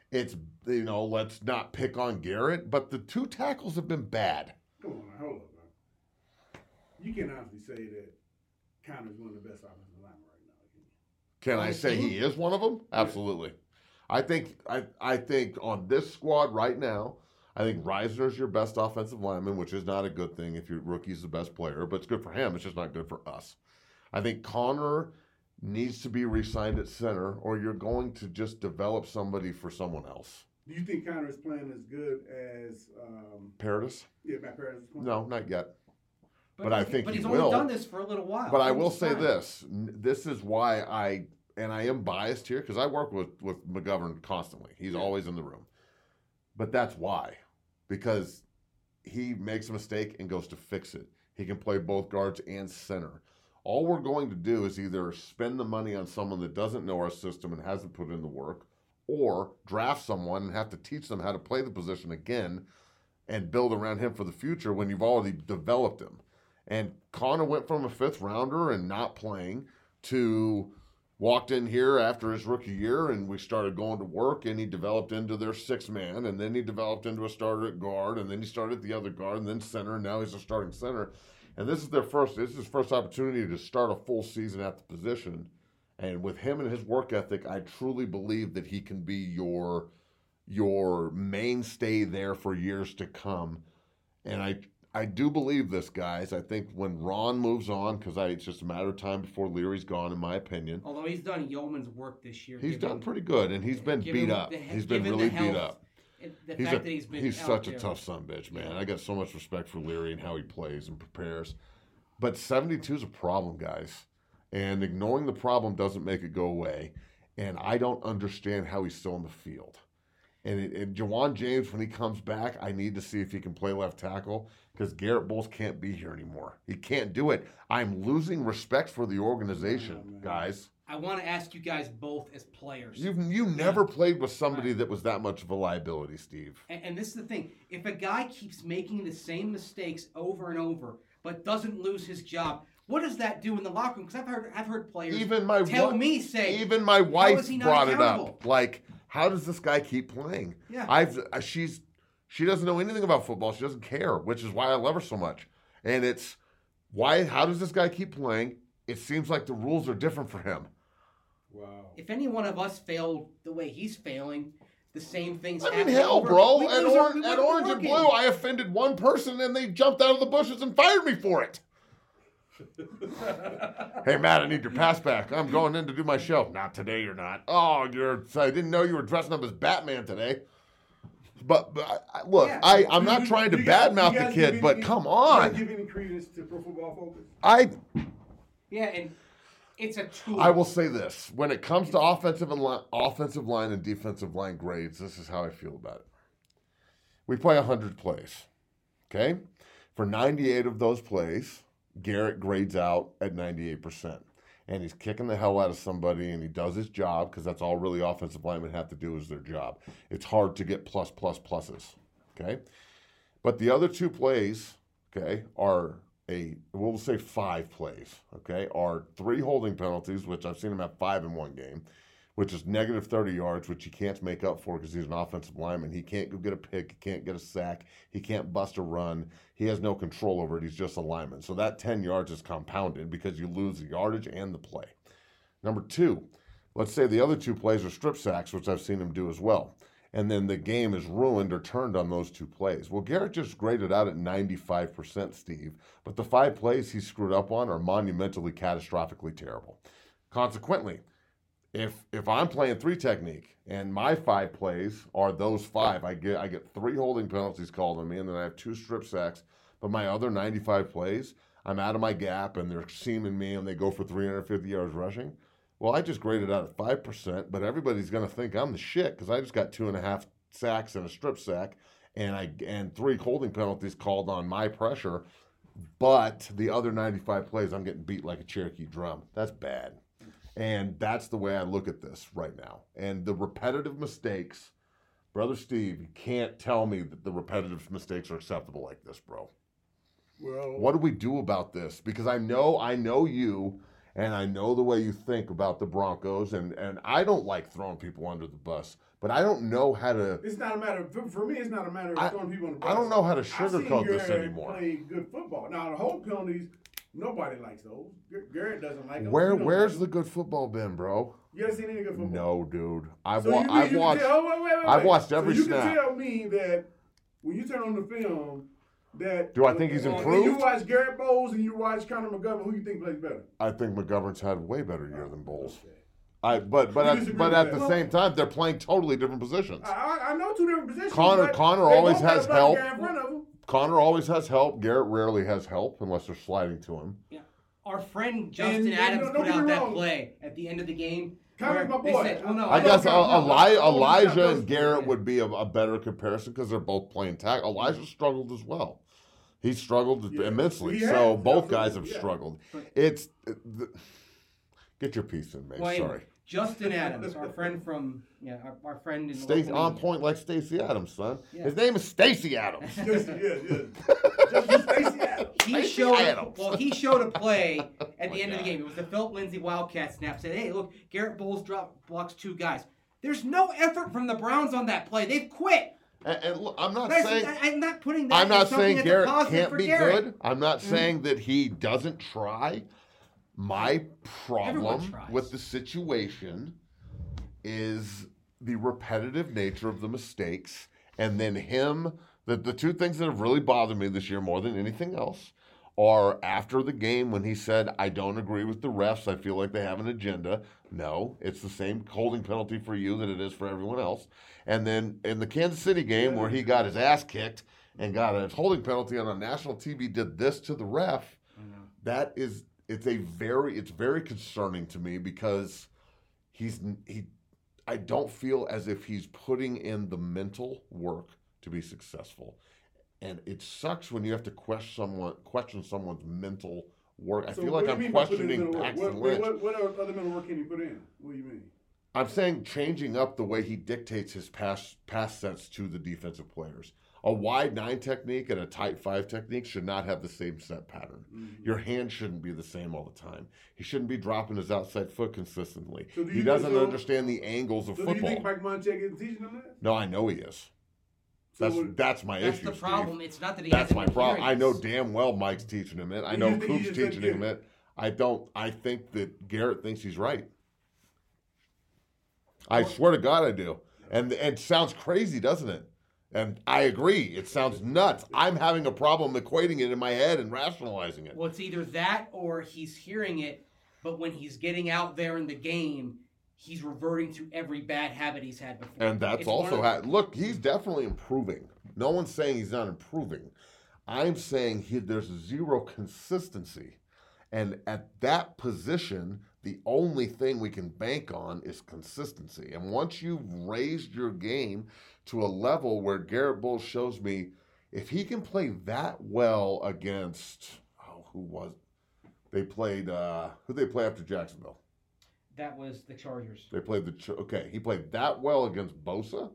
let's not pick on Garrett, but the 2 tackles have been bad. Come on, now, hold up, man. You can honestly say that Connor's one of the best offensive linemen right now. Can I say he is one of them? Absolutely. I think on this squad right now, I think Reisner's your best offensive lineman, which is not a good thing if your rookie's the best player, but it's good for him. It's just not good for us. I think Connor needs to be re-signed at center, or you're going to just develop somebody for someone else. Do you think Connor is playing as good as Paradis? Yeah, Matt Paradis is playing? No, not yet. But I think he's he only will. done this for a little while. But I will say this. This is why I am biased here because I work with McGovern constantly. He's always in the room. But that's why. Because he makes a mistake and goes to fix it. He can play both guards and center. All we're going to do is either spend the money on someone that doesn't know our system and hasn't put in the work, or draft someone and have to teach them how to play the position again and build around him for the future when you've already developed him. And Connor went from a 5th rounder and not playing to walked in here after his rookie year and we started going to work and he developed into their 6th man and then he developed into a starter at guard and then he started at the other guard and then center and now he's a starting center. And this is his first opportunity to start a full season at the position. And with him and his work ethic, I truly believe that he can be your mainstay there for years to come. And I do believe this, guys. I think when Ron moves on, because it's just a matter of time before Leary's gone, in my opinion. Although he's done yeoman's work this year. He's done pretty good, and he's been beat up. He's been really beat up. He's such a tough sumbitch, man. I got so much respect for Leary and how he plays and prepares. But 72 is a problem, guys. And ignoring the problem doesn't make it go away. And I don't understand how he's still in the field. And Jawan James, when he comes back, I need to see if he can play left tackle because Garrett Bowles can't be here anymore. He can't do it. I'm losing respect for the organization, guys. I want to ask you guys both as players. You never played with somebody that was that much of a liability, Steve. And this is the thing. If a guy keeps making the same mistakes over and over but doesn't lose his job, what does that do in the locker room? Because I've heard players Even my wife brought it up. Like, how does this guy keep playing? Yeah. She doesn't know anything about football. She doesn't care, which is why I love her so much. And it's how does this guy keep playing? It seems like the rules are different for him. Wow. If any one of us failed the way he's failing, the same things I happen. mean, hell, over. bro. We At lose our- Orange and Blue, I offended one person and they jumped out of the bushes and fired me for it. Hey, Matt, I need your pass back. I'm going in to do my show. Not today, you're not. Oh, I didn't know you were dressing up as Batman today. But look, Yeah. I'm not trying to badmouth the kid, but come on. Do you give any credence to Pro Football Focus? Yeah, and it's a tool. I will say this. When it comes to offensive line and defensive line grades, this is how I feel about it. We play 100 plays, okay? For 98 of those plays, Garrett grades out at 98%. And he's kicking the hell out of somebody, and he does his job, because that's all really offensive linemen have to do is their job. It's hard to get pluses, okay? But the other 2 plays, okay, are we'll say 5 plays, okay, are 3 holding penalties, which I've seen him have 5 in one game, which is negative 30 yards, which he can't make up for because he's an offensive lineman. He can't go get a pick. He can't get a sack. He can't bust a run. He has no control over it. He's just a lineman. So that 10 yards is compounded because you lose the yardage and the play. Number 2, let's say the other 2 plays are strip sacks, which I've seen him do as well. And then the game is ruined or turned on those 2 plays. Well, Garrett just graded out at 95%, Steve. But the 5 plays he screwed up on are monumentally, catastrophically terrible. Consequently, if I'm playing 3 technique and my 5 plays are those 5, I get 3 holding penalties called on me, and then I have 2 strip sacks. But my other 95 plays, I'm out of my gap, and they're seaming me, and they go for 350 yards rushing. Well, I just graded out at 5%, but everybody's going to think I'm the shit because I just got 2.5 sacks and a strip sack, and 3 holding penalties called on my pressure. But the other 95 plays, I'm getting beat like a Cherokee drum. That's bad. And that's the way I look at this right now. And the repetitive mistakes, Brother Steve, you can't tell me that the repetitive mistakes are acceptable like this, bro. Well, What do we do about this? Because I know you, and I know the way you think about the Broncos, and I don't like throwing people under the bus, but I don't know how to. it's not a matter for me. It's not a matter of throwing people on the bus. I don't know how to I've seen sugarcoat this Garrett anymore. Play good football. Now the whole penalties, nobody likes those. Garrett doesn't like them. Where's the good football been, bro? You ever seen any good football? No, dude. I've So watched. wait. I've watched every so you snap. can tell me that when you turn on the film that. Do I think he's when improved? you watch Garrett Bowles and you watch Connor McGovern, who you think plays better? I think McGovern's had a way better year than Bowles. Okay. But at disagree the with that? same time, they're playing totally different positions. I know 2 different positions. Connor but always they both has got a help. black guy in front of them. Connor always has help. Garrett rarely has help unless they're sliding to him. Yeah. Our friend Justin And Adams don't put get out me that wrong. play at the end of the game. Connor's where my they boy. said, well, no, I guess Elijah Elijah and yeah. Garrett would be a better comparison because they're both playing tackle. Elijah struggled as well. He struggled Yeah. immensely. He has. So both guys have Absolutely, yeah. struggled. Get your piece in, mate. Well, anyway, Sorry. Justin Adams, our friend from our friend in the Stacey local on media. point like Stacey Adams, son. Yeah. His name is Stacey Adams. Just Stacey Adams. He showed Adams. he showed a play at the end of the game. It was the Philip Lindsay Wildcat snap. Said, "Hey, look, Garrett Bowles blocks 2 guys." There's no effort from the Browns on that play. They've quit. And look, I'm not That's- saying I'm not putting that. I'm not as something saying that's a Garrett positive can't for be Garrett. good. I'm not saying that he doesn't try. My Everyone problem tries. with the situation is the repetitive nature of the mistakes, and then the 2 things that have really bothered me this year more than anything else are after the game when he said, I don't agree with the refs. I feel like they have an agenda. No, it's the same holding penalty for you that it is for everyone else. And then in the Kansas City game where he got his ass kicked and got a holding penalty on a national TV, did this to the ref. That is it's very concerning to me because I don't feel as if he's putting in the mental work to be successful. And it sucks when you have to question someone's mental work. I feel like I'm questioning Paxton Lynch. What other mental work can he put in? What do you mean? I'm saying changing up the way he dictates his pass sets to the defensive players. A wide 9 technique and a tight 5 technique should not have the same set pattern. Mm-hmm. Your hand shouldn't be the same all the time. He shouldn't be dropping his outside foot consistently. So he doesn't understand the angles of football. Do you think Mike Munchak is teaching him that? No, I know he is. That's my issue. That's the problem. Steve. It's not that he That's hasn't my been problem. hearing I know this. damn well Mike's teaching him it. I know Coop's teaching him it. I think that Garrett thinks he's right. I swear to God I do. And it sounds crazy, doesn't it? And I agree. It sounds nuts. I'm having a problem equating it in my head and rationalizing it. Well, it's either that or he's hearing it, but when he's getting out there in the game, he's reverting to every bad habit he's had before. And that's also look, he's definitely improving. No one's saying he's not improving. I'm saying there's zero consistency. And at that position, the only thing we can bank on is consistency. And once you've raised your game to a level where Garrett Bowles shows me if he can play that well against, who was it? They played, who'd they play after Jacksonville? That was the Chargers. They played he played that well against Bosa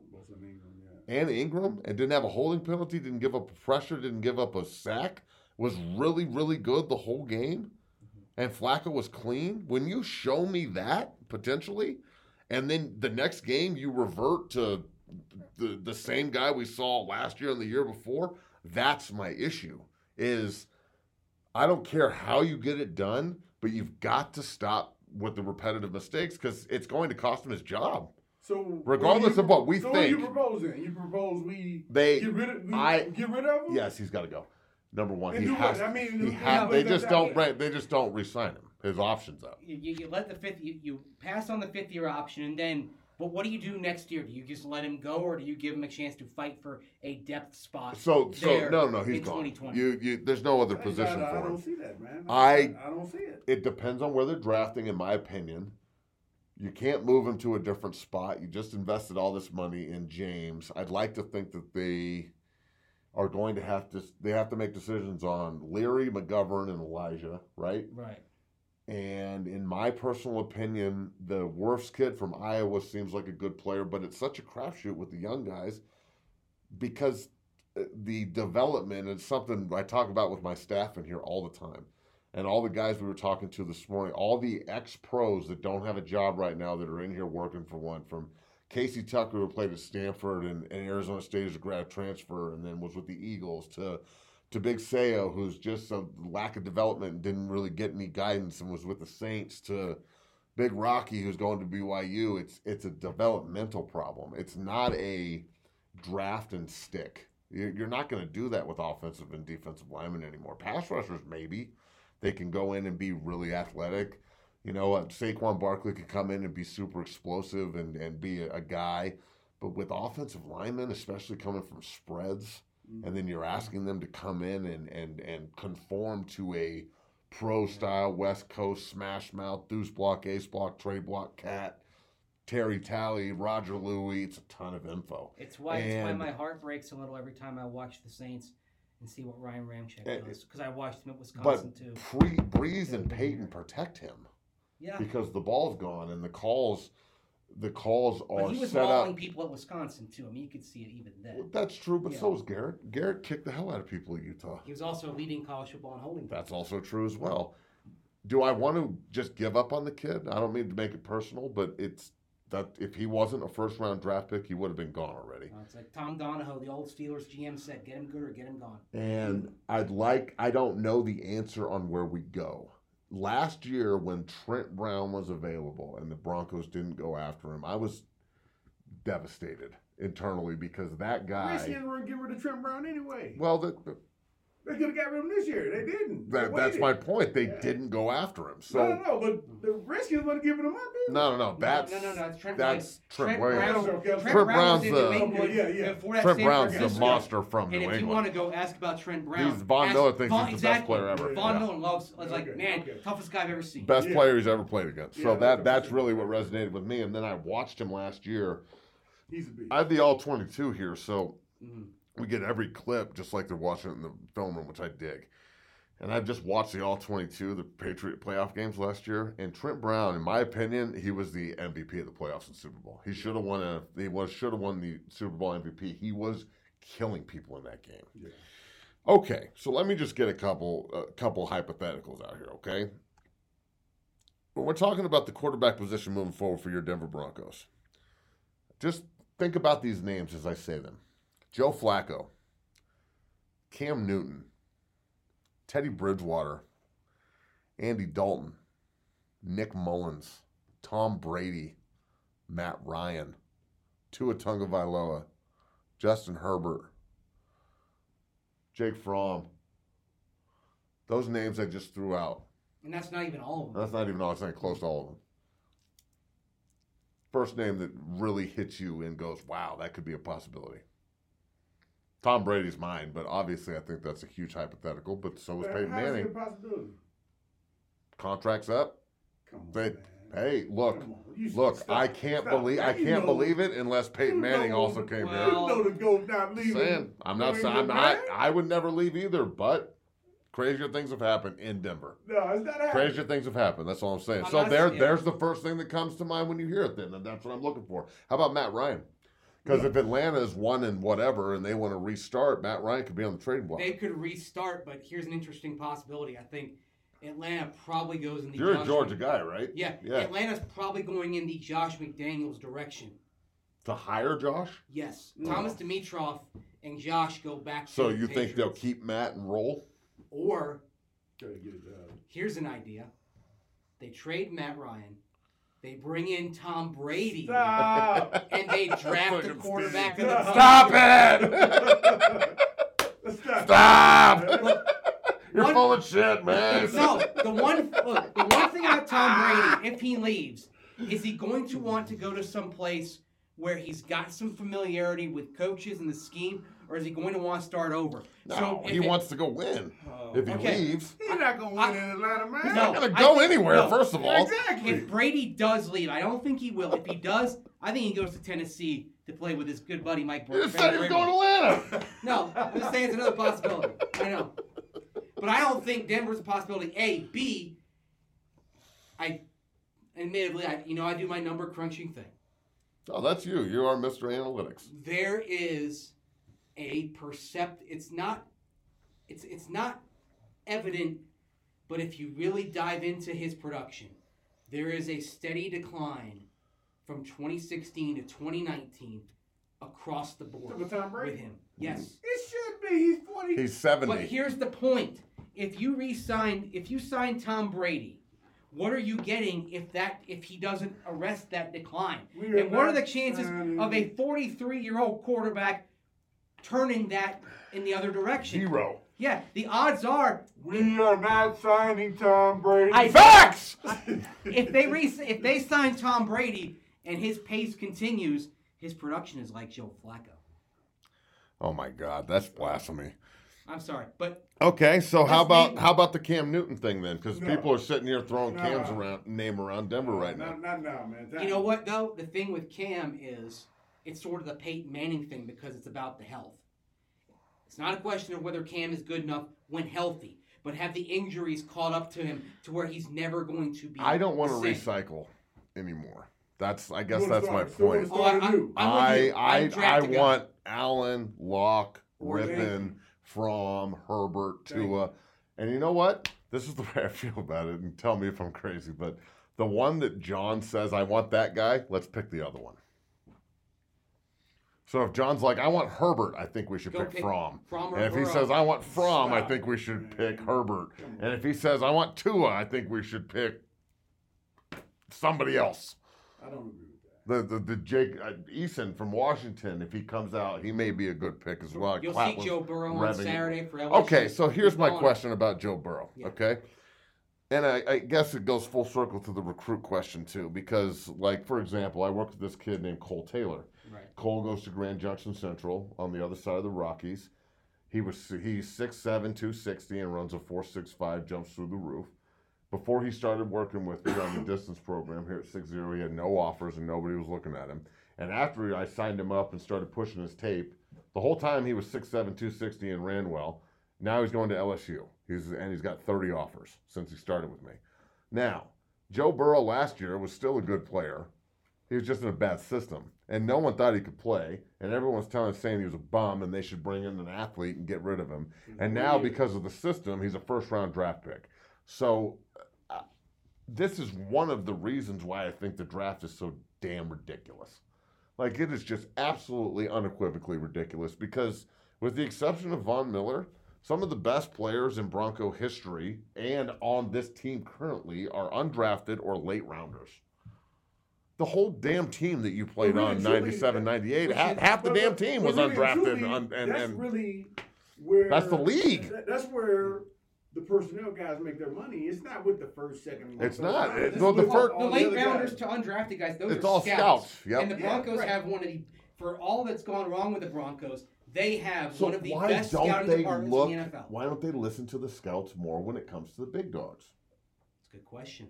and Ingram and didn't have a holding penalty, didn't give up pressure, didn't give up a sack, was really, really good the whole game. And Flacco was clean. When you show me that, potentially, and then the next game you revert to the same guy we saw last year and the year before, that's my issue. Is I don't care how you get it done, but you've got to stop with the repetitive mistakes because it's going to cost him his job. So regardless of what we think. So what are you proposing? You propose get rid of him? Yes, he's got to go. Number one, they just don't re-sign him. His option's up. You let the fifth. You pass on the 5th-year option, and then. But what do you do next year? Do you just let him go, or do you give him a chance to fight for a depth spot? So no, he's gone. There's no other position for him. I don't see that, man. I don't see it. It depends on where they're drafting, in my opinion. You can't move him to a different spot. You just invested all this money in James. I'd like to think that they are going to have to make decisions on Leary, McGovern, and Elijah, right? Right. And in my personal opinion, the Wirfs kid from Iowa seems like a good player, but it's such a crapshoot with the young guys because the development is something I talk about with my staff in here all the time. And all the guys we were talking to this morning, all the ex-pros that don't have a job right now that are in here working for one, from Casey Tucker, who played at Stanford and Arizona State as a grad transfer and then was with the Eagles, to Big Sayo, who's just a lack of development and didn't really get any guidance and was with the Saints, to Big Rocky, who's going to BYU. It's a developmental problem. It's not a draft and stick. You're not going to do that with offensive and defensive linemen anymore. Pass rushers, maybe. They can go in and be really athletic. You know, Saquon Barkley could come in and be super explosive and be a guy. But with offensive linemen, especially coming from spreads, and then you're asking them to come in and conform to a pro-style West Coast smash mouth, deuce block, ace block, trade block, cat, Terry Talley, Roger Louie. It's a ton of info. It's why my heart breaks a little every time I watch the Saints and see what Ryan Ramczyk does, because I watched him at Wisconsin too. But Breeze and Peyton protect him. Yeah. Because the ball's gone and the calls are set up. But he was mauling people at Wisconsin too. I mean, you could see it even then. Well, that's true, but so was Garrett. Garrett kicked the hell out of people at Utah. He was also leading college football in holding. That's also true as well. Do I want to just give up on the kid? I don't mean to make it personal, but it's that if he wasn't a first-round draft pick, he would have been gone already. It's like Tom Donahoe, the old Steelers GM, said, get him good or get him gone. And I don't know the answer on where we go. Last year, when Trent Brown was available and the Broncos didn't go after him, I was devastated internally because that guy. They didn't get rid of Trent Brown anyway. Well, They could have got rid of him this year. They didn't. That's my point. They didn't go after him. So No, but the Redskins want to give him up. no. That's Trent Williams. Trent Brown's was in the- New England Yeah. before that Trent Stanford Brown's the Francisco. monster from New And if you England. want to go ask about Trent Brown, Von ask Miller thinks he's the best exactly. player ever. Von Yeah. Miller loves, like, Okay, man, okay. toughest guy I've ever seen. Best Yeah. player he's ever played against. So Yeah, that's 100%. really what resonated with me. And then I watched him last year. He's a beast. I have the all 22 here, so Mhm. we get every clip just like they're watching it in the film room, which I dig. And I've just watched the all 22, the Patriot playoff games last year. And Trent Brown, in my opinion, he was the MVP of the playoffs and Super Bowl. He should have won. Should have won the Super Bowl MVP. He was killing people in that game. Yeah. Okay, so let me just get a couple hypotheticals out here. Okay, when we're talking about the quarterback position moving forward for your Denver Broncos, just think about these names as I say them: Joe Flacco, Cam Newton, Teddy Bridgewater, Andy Dalton, Nick Mullins, Tom Brady, Matt Ryan, Tua Tagovailoa, Justin Herbert, Jake Fromm. Those names I just threw out. And that's not even all of them. That's not even all. It's not close to all of them. First name that really hits you and goes, wow, that could be a possibility. Tom Brady's mine, but obviously I think that's a huge hypothetical, but so is Peyton How's it Manning. a possibility? Contract's up. Come on, They, man. hey, look, Come on. You look, stop. I can't Stop. believe Now I you can't know- believe it unless Peyton you Manning know- also came well, here. You know the GOAT not leaving. Saying, I'm not saying I would never leave either, but crazier things have happened in Denver. No, it's not happening. Crazier things have happened. That's all I'm saying. I'm So not- there's yeah. the first thing that comes to mind when you hear it. Then and that's what I'm looking for. How about Matt Ryan? Because if Atlanta's won and whatever, and they want to restart, Matt Ryan could be on the trading block. They could restart, but here's an interesting possibility. I think Atlanta probably goes in the You're a Josh Georgia guy, right? Yeah, Yeah. Atlanta's probably going in the Josh McDaniels direction. To hire Josh? Yes, Thomas Dimitroff and Josh go back. So to the you think they'll Patriots. keep Matt and roll? Or Gotta get it done. here's an idea: they trade Matt Ryan, they bring in Tom Brady, Stop. and they draft a quarterback of the Stop it! Stop. Stop! Look, You're one- full of shit, man. No, the one thing about Tom Brady, if he leaves, is he going to want to go to some place where he's got some familiarity with coaches and the scheme, or is he going to want to start over? No, if he it- wants to go win. If he Okay. leaves, He's not gonna win in Atlanta, man. he's No. not going to I go think- anywhere, no. first of all. Exactly. If Brady does leave, I don't think he will. If he does, I think he goes to Tennessee to play with his good buddy Mike You just said he was going to Atlanta. No, I'm just saying it's another possibility. I know. But I don't think Denver's a possibility. A. B. Admittedly, I do my number crunching thing. Oh, that's you. You are Mr. Analytics. There is a it's not evident, but if you really dive into his production, there is a steady decline from 2016 to 2019 across the board With Tom Brady? with him. Yes. It should be. He's 40. He's 70. But here's the point. If you sign Tom Brady, what are you getting if he doesn't arrest that decline? We are And what are the not chances signing- of a 43-year-old quarterback turning that in the other direction? 0. Yeah, the odds are We are not signing Tom Brady. Facts! if they sign Tom Brady and his pace continues, his production is like Joe Flacco. Oh my God, that's blasphemy. I'm sorry, but Okay, so how Let's about the Cam Newton thing then? Because No. people are sitting here throwing No. Cam's name around Denver right now. Not now, man. you know what though? The thing with Cam is it's sort of the Peyton Manning thing because it's about the health. It's not a question of whether Cam is good enough when healthy, but have the injuries caught up to him to where he's never going to be. I don't want to the same. recycle anymore. I guess You wanna that's my start- so you point. wanna Oh, start anew. I'm with you. I draft a guy. want Allen, Locke, Or Rippon, Jenkins. Fromm, Herbert, Thank Tua. And you know what? This is the way I feel about it, and tell me if I'm crazy, but the one that John says, I want that guy, let's pick the other one. So if John's like, I want Herbert, I think we should Go pick pick Fromm. Fromm or And if he Burrow. says, I want Fromm, I Stop. think we should pick Herbert. And if he says, I want Tua, I think we should pick somebody else. I don't agree with that. The Jake Eason from Washington, if he comes out, he may be a good pick as well. You'll Clout see was Joe Burrow on revving. Saturday for LSU. Okay, so here's my Balling. question about Joe Burrow, Yeah. okay? And I guess it goes full circle to the recruit question, too, because, like, for example, I worked with this kid named Cole Taylor. Right. Cole goes to Grand Junction Central on the other side of the Rockies. He's 6'7", 260, and runs a 4.65, jumps through the roof. Before he started working with me on the distance program here at 6-0, he had no offers and nobody was looking at him. And after I signed him up and started pushing his tape, the whole time he was 6'7", 260 and ran well. Now he's going to LSU. He's got 30 offers since he started with me. Now, Joe Burrow last year was still a good player. He was just in a bad system. And no one thought he could play. And everyone's saying he was a bum and they should bring in an athlete and get rid of him. And now, because of the system, he's a first-round draft pick. So this is one of the reasons why I think the draft is so damn ridiculous. Like, it is just absolutely unequivocally ridiculous because, with the exception of Von Miller, some of the best players in Bronco history and on this team currently are undrafted or late rounders. The whole damn team that you played on 97, 98, half the damn team was undrafted. That's really where... That's the league. That's where the personnel guys make their money. It's not with the first, second. It's not. It's The late rounders to undrafted guys, those it's are all scouts. Yep. And the Broncos have one of the, for all that's gone wrong with the Broncos, they have So one of the why best don't scouting they departments look? in the NFL. Why don't they listen to the scouts more when it comes to the big dogs? That's a good question.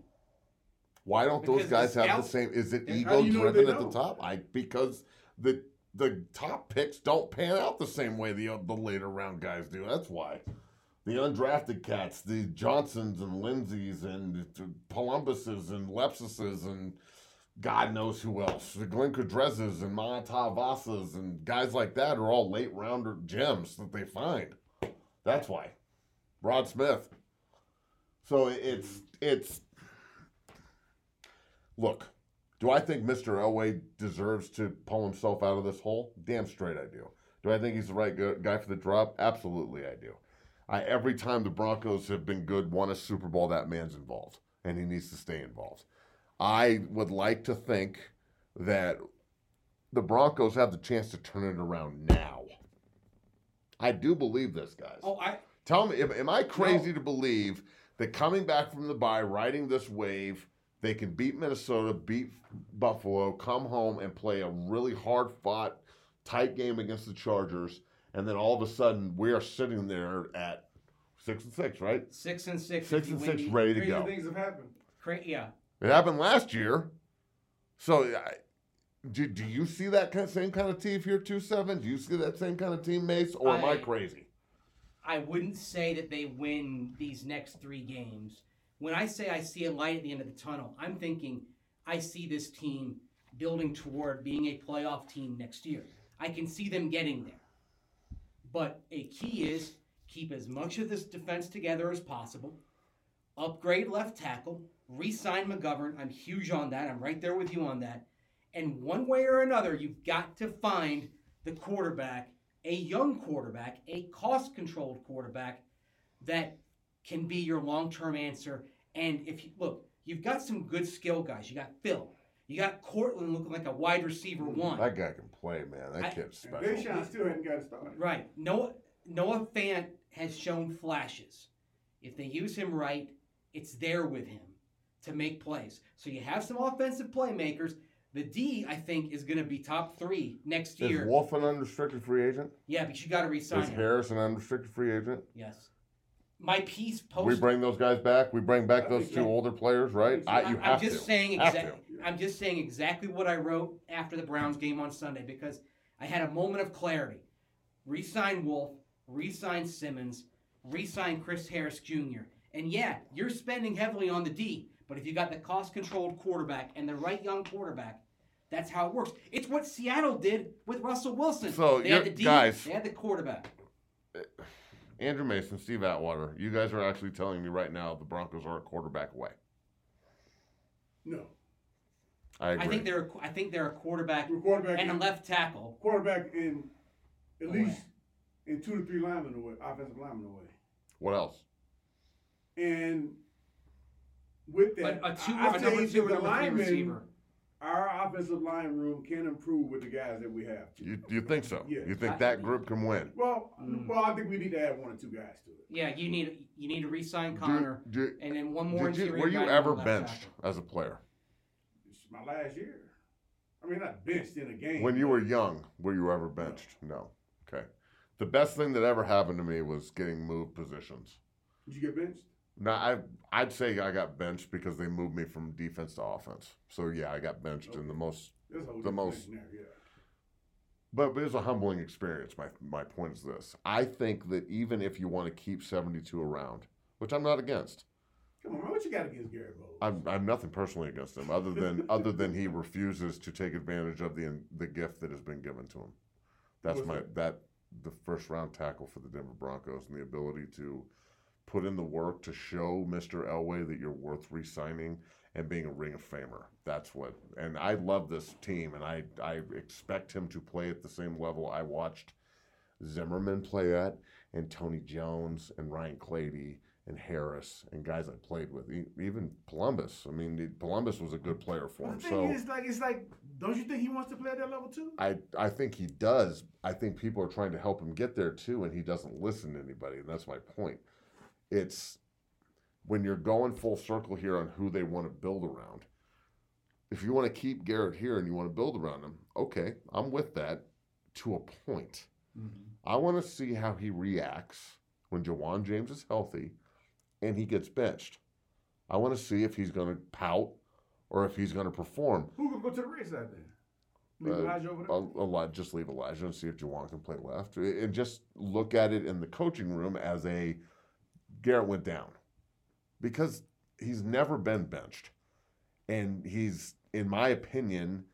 Why don't those Because guys the have the scouts- same? Is it How ego do you know driven they at the don't? top? Because the top picks don't pan out the same way the later round guys do. That's why. The undrafted cats, the Johnsons and Lindsays and the Columbuses and Lepsises and God knows who else. The Glenn Kudrezes and Matavasas and guys like that are all late rounder gems that they find. That's why. Rod Smith. So it's look, do I think Mr. Elway deserves to pull himself out of this hole? Damn straight I do. Do I think he's the right guy for the job? Absolutely I do. Every time the Broncos have been good, won a Super Bowl, that man's involved, and he needs to stay involved. I would like to think that the Broncos have the chance to turn it around now. I do believe this, guys. Tell me, am I crazy to believe that coming back from the bye, riding this wave, they can beat Minnesota, beat Buffalo, come home and play a really hard-fought, tight game against the Chargers, and then all of a sudden we are sitting there at 6-6, right? 6-6. 6-6, ready to Crazy go. things have happened. Yeah. It happened last year. So, do you see that same kind of team here, 2-7? Do you see that same kind of team, Mace, or am I crazy? I wouldn't say that they win these next 3 games. When I say I see a light at the end of the tunnel, I'm thinking I see this team building toward being a playoff team next year. I can see them getting there. But a key is keep as much of this defense together as possible, upgrade left tackle, re-sign McGovern. I'm huge on that. I'm right there with you on that. And one way or another, you've got to find the quarterback, a young quarterback, a cost-controlled quarterback that can be your long-term answer. And if you look, you've got some good skill guys. You got Phil. You got Cortland looking like a wide receiver 1. That guy can play, man. That kid's special. Deshaun still hadn't got started. Right. Noah Fant has shown flashes. If they use him right, it's there with him to make plays. So you have some offensive playmakers. The D, I think, is going to be top 3 next year. Is Wolf an unrestricted free agent? Yeah, but you got to re-sign Is him. Harris an unrestricted free agent? Yes. My piece post. We bring those guys back. We bring back those 2 older players, right? You have to. I'm just saying exactly what I wrote after the Browns game on Sunday because I had a moment of clarity. Re-sign Wolf, re-sign Simmons, re-sign Chris Harris Jr. And yeah, you're spending heavily on the D, but if you got the cost-controlled quarterback and the right young quarterback, that's how it works. It's what Seattle did with Russell Wilson. So, they had the D, guys, they had the quarterback. Andrew Mason, Steve Atwater, you guys are actually telling me right now the Broncos are a quarterback away. No. I agree. I think they're a quarterback Quarterback and a left tackle. Quarterback in at least in 2 to 3 linemen away, offensive linemen away. What else? And with that, But a I number say 2 or the number 3 linemen, receiver. our offensive line room can improve with the guys that we have. You think so? Yeah. You think that group can win? Well, I think we need to add 1 or 2 guys to it. Yeah, you need to re-sign Connor, and then one more. Were you ever benched as a player? It's my last year. I mean, not benched in a game. When you were young, were you ever benched? No. Okay. The best thing that ever happened to me was getting moved positions. Did you get benched? No, I'd say I got benched because they moved me from defense to offense. So yeah, I got benched in the most. But it was a humbling experience. My point is this: I think that even if you want to keep 72 around, which I'm not against. Come on, man, what you got against Garrett Bowles? I'm nothing personally against him, other than he refuses to take advantage of the gift that has been given to him. That's the first round tackle for the Denver Broncos and the ability to put in the work to show Mr. Elway that you're worth re-signing and being a Ring of Famer. That's what. And I love this team, and I expect him to play at the same level I watched Zimmerman play at, and Tony Jones and Ryan Clady and Harris and guys I played with, even Columbus. I mean, Columbus was a good player for him. The thing is, it's like, don't you think he wants to play at that level too? I think he does. I think people are trying to help him get there too, and he doesn't listen to anybody, and that's my point. It's when you're going full circle here on who they want to build around. If you want to keep Garrett here and you want to build around him, okay, I'm with that to a point. Mm-hmm. I want to see how he reacts when Jawan James is healthy and he gets benched. I want to see if he's going to pout or if he's going to perform. Who can go to the right side then? Leave Elijah over there? Just leave Elijah and see if Jawan can play left. And just look at it in the coaching room as Garrett went down. Because he's never been benched. And he's, in my opinion,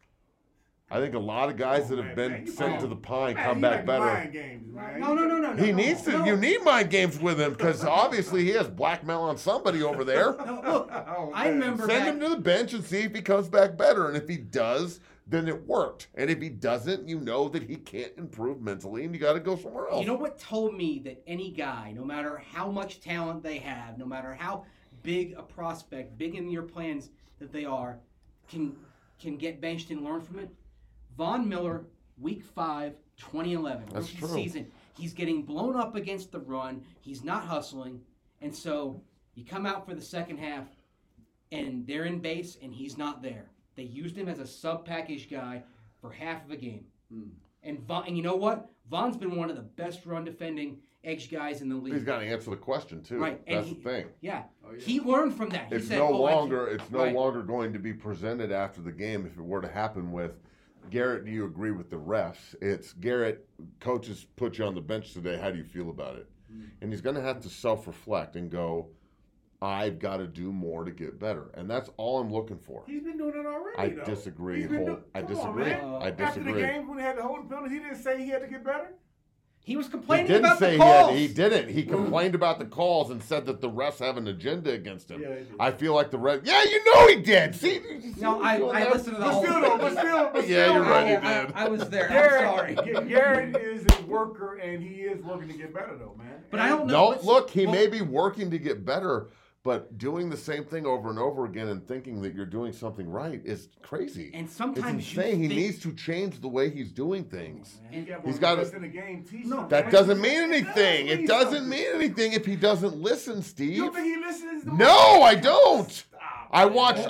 I think a lot of guys that have been sent to the pine come back better. Mind games, man. No. He needs to. You need mind games with him because obviously he has blackmail on somebody over there. Look, I remember Send him to the bench and see if he comes back better. And if he does, then it worked. And if he doesn't, you know that he can't improve mentally and you got to go somewhere else. You know what told me that any guy, no matter how much talent they have, no matter how big a prospect, big in your plans that they are, can get benched and learn from it? Von Miller, Week 5, 2011, That's rookie true. season. He's getting blown up against the run. He's not hustling. And so you come out for the second half, and they're in base, and he's not there. They used him as a sub-package guy for half of a game. And you know what? Von's been one of the best run-defending edge guys in the league. He's got to answer the question, too. Right. That's the thing. Yeah. He learned from that. It's said, no Right. longer going to be presented after the game if it were to happen with Garrett. Do you agree with the refs? It's Garrett, coaches put you on the bench today. How do you feel about it? And he's going to have to self-reflect and go, I've got to do more to get better. And that's all I'm looking for. He's been doing it already, I though. disagree. I disagree. After the game when he had the holding penalty, he didn't say he had to get better? He was He complaining didn't about say the calls. he didn't. He complained about the calls and said that the refs have an agenda against him. Yeah, he did. I feel like the ref. Yeah, you know he did. See, No, I listened to the whole thing. But still, Yeah, you're right, he I- did. I was there. I'm sorry. Garrett is a worker, and he is working to get better, though, man. But I don't know. No, look, he may be working to get better, but doing the same thing over and over again and thinking that you're doing something right is crazy. And it's sometimes you insane. He think- needs to change the way he's doing things. He's got in the game. That doesn't mean anything. It doesn't mean anything if he doesn't listen, Steve. You don't think he listens? No, I don't. Stop. I watched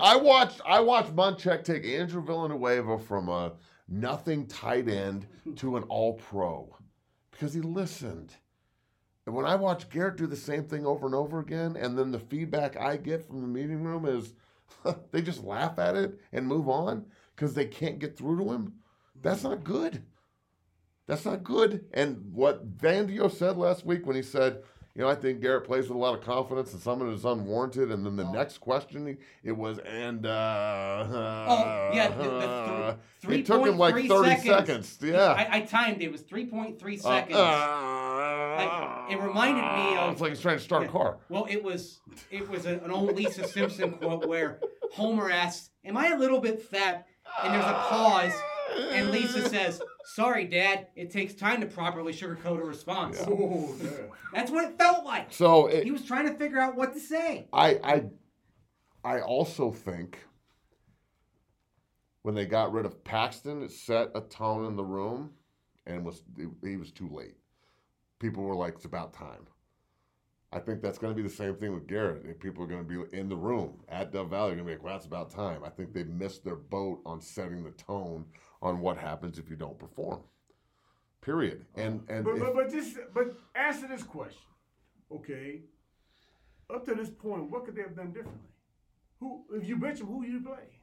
Munchak take Andrew Villanueva from a nothing tight end to an all-pro because he listened. And when I watch Garrett do the same thing over and over again, and then the feedback I get from the meeting room is they just laugh at it and move on because they can't get through to him, that's not good. That's not good. And what Vandio said last week when he said, I think Garrett plays with a lot of confidence and some of it is unwarranted. And then the next question, it was, the three it took him like 30 seconds. Yeah. I timed it. It was 3.3 seconds. It reminded me of. It's like he's trying to start a car. Well, it was an old Lisa Simpson quote where Homer asks, "Am I a little bit fat?" And there's a pause, and Lisa says, "Sorry, Dad. It takes time to properly sugarcoat a response." Yeah. Oh, yeah. That's what it felt like. So He was trying to figure out what to say. I also think when they got rid of Paxton, it set a tone in the room, and he was too late. People were like, it's about time. I think that's going to be the same thing with Garrett. People are going to be in the room at Dove Valley. They're going to be like, well, it's about time. I think they missed their boat on setting the tone on what happens if you don't perform. Period. But answer this question. Okay. Up to this point, what could they have done differently? If you bench him, who you play?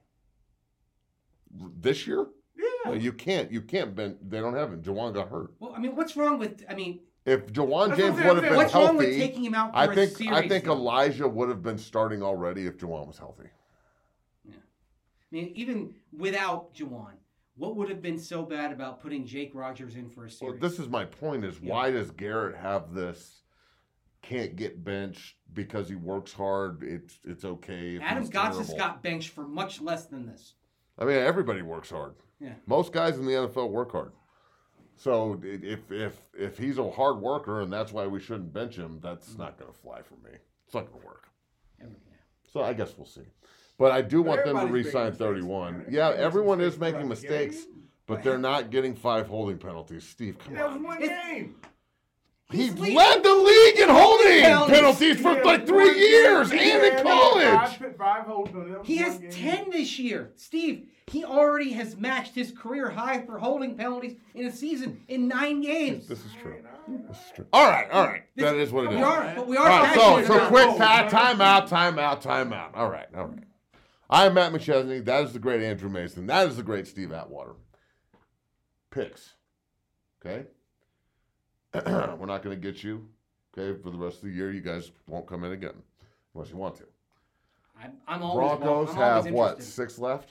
This year? Yeah. No, you can't bench. They don't have him. Jawan got hurt. Well, I mean, what's wrong with? If Jawan That's James what I'm would have saying. been What's healthy, wrong with taking him out for a series? I think though? Elijah would have been starting already if Jawan was healthy. Yeah. I mean, even without Jawan, what would have been so bad about putting Jake Rogers in for a series? Well, this is my point: why does Garrett have this? Can't get benched because he works hard. It's okay. Adam Gotsis got benched for much less than this. I mean, everybody works hard. Yeah. Most guys in the NFL work hard. So if he's a hard worker and that's why we shouldn't bench him, that's not going to fly for me. It's not going to work. So I guess we'll see. But I do want them to re-sign 31. Mistakes, yeah, man. everyone is Mistakes making throughout the mistakes, game. but they're not getting 5 holding penalties. Steve, come That was on. one game. He led the league in holding penalties for like 3 years and in college. Five holding penalties. He has 10 this year. Steve, he already has matched his career high for holding penalties in a season in 9 games. This is true. This is true. All right. That is what it is. We are All right, passionate so about quick it. time out. All right. I am Matt McChesney. That is the great Andrew Mason. That is the great Steve Atwater. Picks. Okay? We're not going to get you, okay, for the rest of the year. You guys won't come in again unless you want to. I'm always Broncos I'm have, always what, interested. 6 left?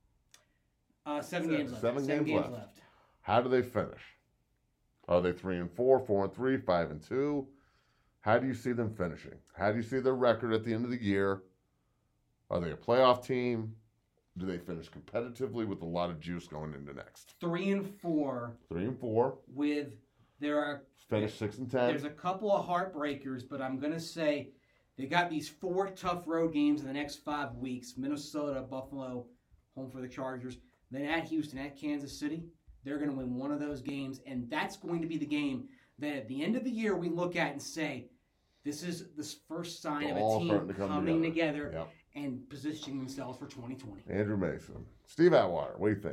7 games left. 7 7 games left. How do they finish? Are they 3-4, 4-3, 5-2? How do you see them finishing? How do you see their record at the end of the year? Are they a playoff team? Do they finish competitively with a lot of juice going into next? 3-4. 3-4. With Finish 6-10. There's a couple of heartbreakers, but I'm gonna say they got these 4 tough road games in the next 5 weeks: Minnesota, Buffalo, home for the Chargers, then at Houston, at Kansas City. They're gonna win one of those games, and that's going to be the game that at the end of the year we look at and say, this is the first sign of a team coming together Yep. and positioning themselves for 2020. Andrew Mason. Steve Atwater, what do you think?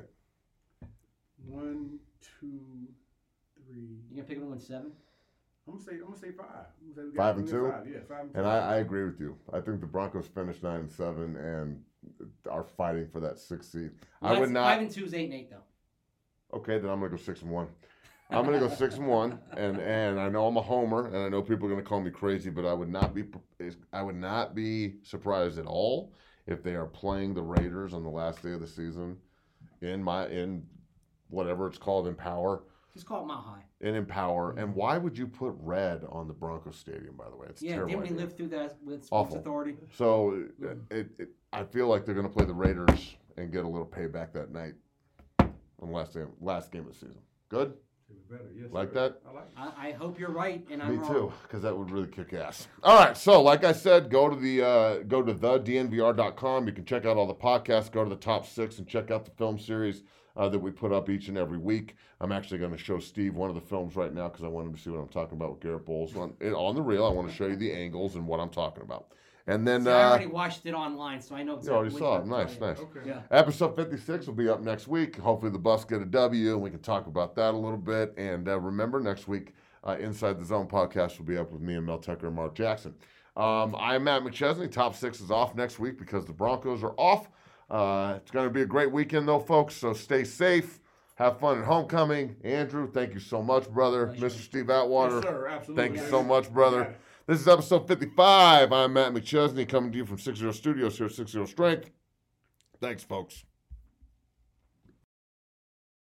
1, 2, 3. You gonna pick them to win 7? I'm gonna say 5. 5-2? 5. Yeah, 5 and 2. And I agree with you. I think the Broncos finished 9-7 and are fighting for that 6th seed. Well, I would not. 5-2 is 8-8 though. Okay, then I'm gonna go 6-1. I'm gonna go 6-1, and I know I'm a homer, and I know people are gonna call me crazy, but I would not be surprised at all if they are playing the Raiders on the last day of the season in whatever it's called, Empower. Just call it Mile High. In Empower. And why would you put red on the Broncos Stadium, by the way? It's terrible. Didn't we idea. live through that with Sports Awful. Authority? So I feel like they're going to play the Raiders and get a little payback that night on the last game of the season. Good? Yes, like sir. that? I like it. I hope you're right, and I'm Me wrong. too, because that would really kick ass. All right, so like I said, go to thednvr.com. You can check out all the podcasts. Go to the top 6 and check out the film series that we put up each and every week. I'm actually going to show Steve one of the films right now because I want him to see what I'm talking about with Garrett Bowles on the reel. I want to show you the angles and what I'm talking about. And then See, I already watched it online, so I know you exactly already what saw you're it. Nice, talking nice. about. Okay. Yeah. Episode 56 will be up next week. Hopefully the Buffs get a W, and we can talk about that a little bit. And remember, next week, Inside the Zone podcast will be up with me and Mel Tucker and Mark Jackson. I'm Matt McChesney. Top 6 is off next week because the Broncos are off. It's going to be a great weekend, though, folks, so stay safe. Have fun at homecoming. Andrew, thank you so much, brother. Mr. Steve Atwater. Yes, sir. Absolutely. Thank you so much, brother. This is episode 55. I'm Matt McChesney coming to you from 60 Studios here at 60 Strength. Thanks, folks.